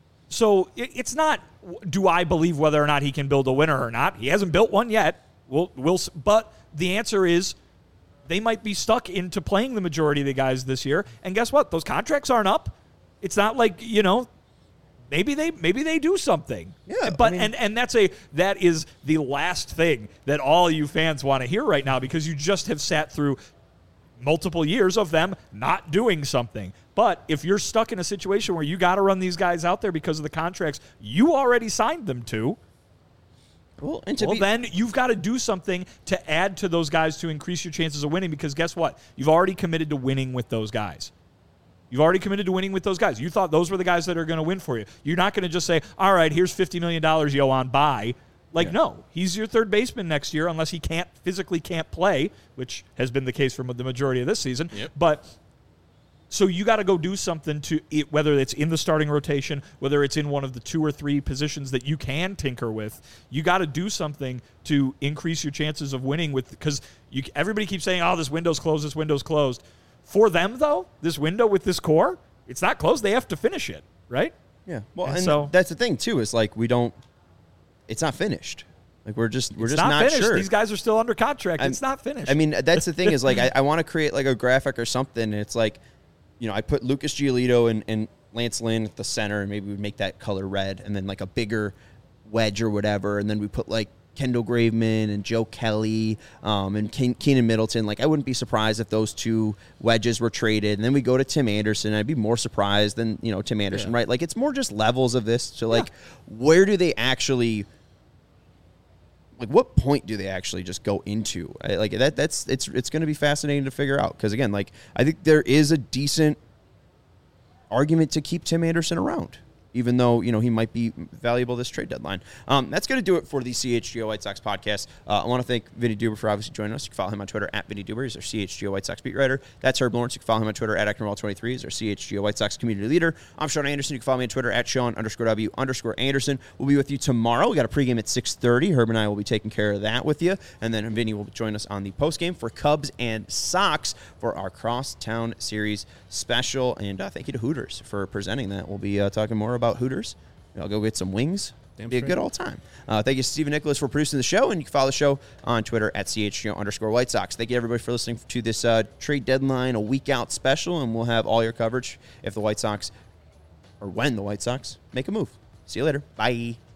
so it, it's not, do I believe whether or not he can build a winner or not? He hasn't built one yet. We'll, we'll, s- but the answer is they might be stuck into playing the majority of the guys this year. And guess what? Those contracts aren't up. It's not like, you know, maybe they maybe they do something. Yeah, But I mean- and and that's a that is the last thing that all you fans want to hear right now, because you just have sat through multiple years of them not doing something. But if you're stuck in a situation where you got to run these guys out there because of the contracts you already signed them to, Well, and to well, be, then you've got to do something to add to those guys to increase your chances of winning, because guess what? You've already committed to winning with those guys. You've already committed to winning with those guys. You thought those were the guys that are going to win for you. You're not going to just say, all right, here's fifty million dollars, Yohan, bye. Like, Yeah. no, he's your third baseman next year unless he can't physically can't play, which has been the case for the majority of this season. Yep. But so you got to go do something to it, whether it's in the starting rotation, whether it's in one of the two or three positions that you can tinker with. You got to do something to increase your chances of winning with, because you everybody keeps saying, "Oh, this window's closed. This window's closed." For them, though, this window with this core, it's not closed. They have to finish it, right? yeah. Well, And and so- that's the thing, too, is, like, we don't, it's not finished. Like, we're just, we're It's just not, not, finished. sure. These guys are still under contract. I'm- it's not finished. I mean, that's the thing is, like, I, I want to create, like, a graphic or something. And it's like, you know, I put Lucas Giolito and, and Lance Lynn at the center, and maybe we'd make that color red, and then, like, a bigger wedge or whatever. And then we put, like, Kendall Graveman and Joe Kelly um, and Ke- Keenan Middleton. Like, I wouldn't be surprised if those two wedges were traded. And then we go to Tim Anderson. I'd be more surprised than, you know, Tim Anderson, Yeah. right? Like, it's more just levels of this to, like, where do they actually – like, what point do they actually just go into? I, like that that's it's it's going to be fascinating to figure out, because again, like, I think there is a decent argument to keep Tim Anderson around, even though, you know, he might be valuable this trade deadline. Um, that's going to do it for the C H G O White Sox podcast. Uh, I want to thank Vinny Duber for obviously joining us. You can follow him on Twitter at Vinny Duber. He's our C H G O White Sox beat writer. That's Herb Lawrence. You can follow him on Twitter at Acton twenty-three. He's our C H G O White Sox community leader. I'm Sean Anderson. You can follow me on Twitter at Sean underscore W underscore Anderson. We'll be with you tomorrow. We got a pregame at six thirty. Herb and I will be taking care of that with you. And then Vinny will join us on the postgame for Cubs and Sox for our Crosstown Series special. And uh, thank you to Hooters for presenting that. We'll be uh, talking more about Hooters. I'll go get some wings. Damn Be a straight. good old time. Uh, thank you to Stephen Nicholas for producing the show, and you can follow the show on Twitter at C H G O underscore White Sox. Thank you, everybody, for listening to this uh, trade deadline, a week out special, and we'll have all your coverage if the White Sox, or when the White Sox make a move. See you later. Bye.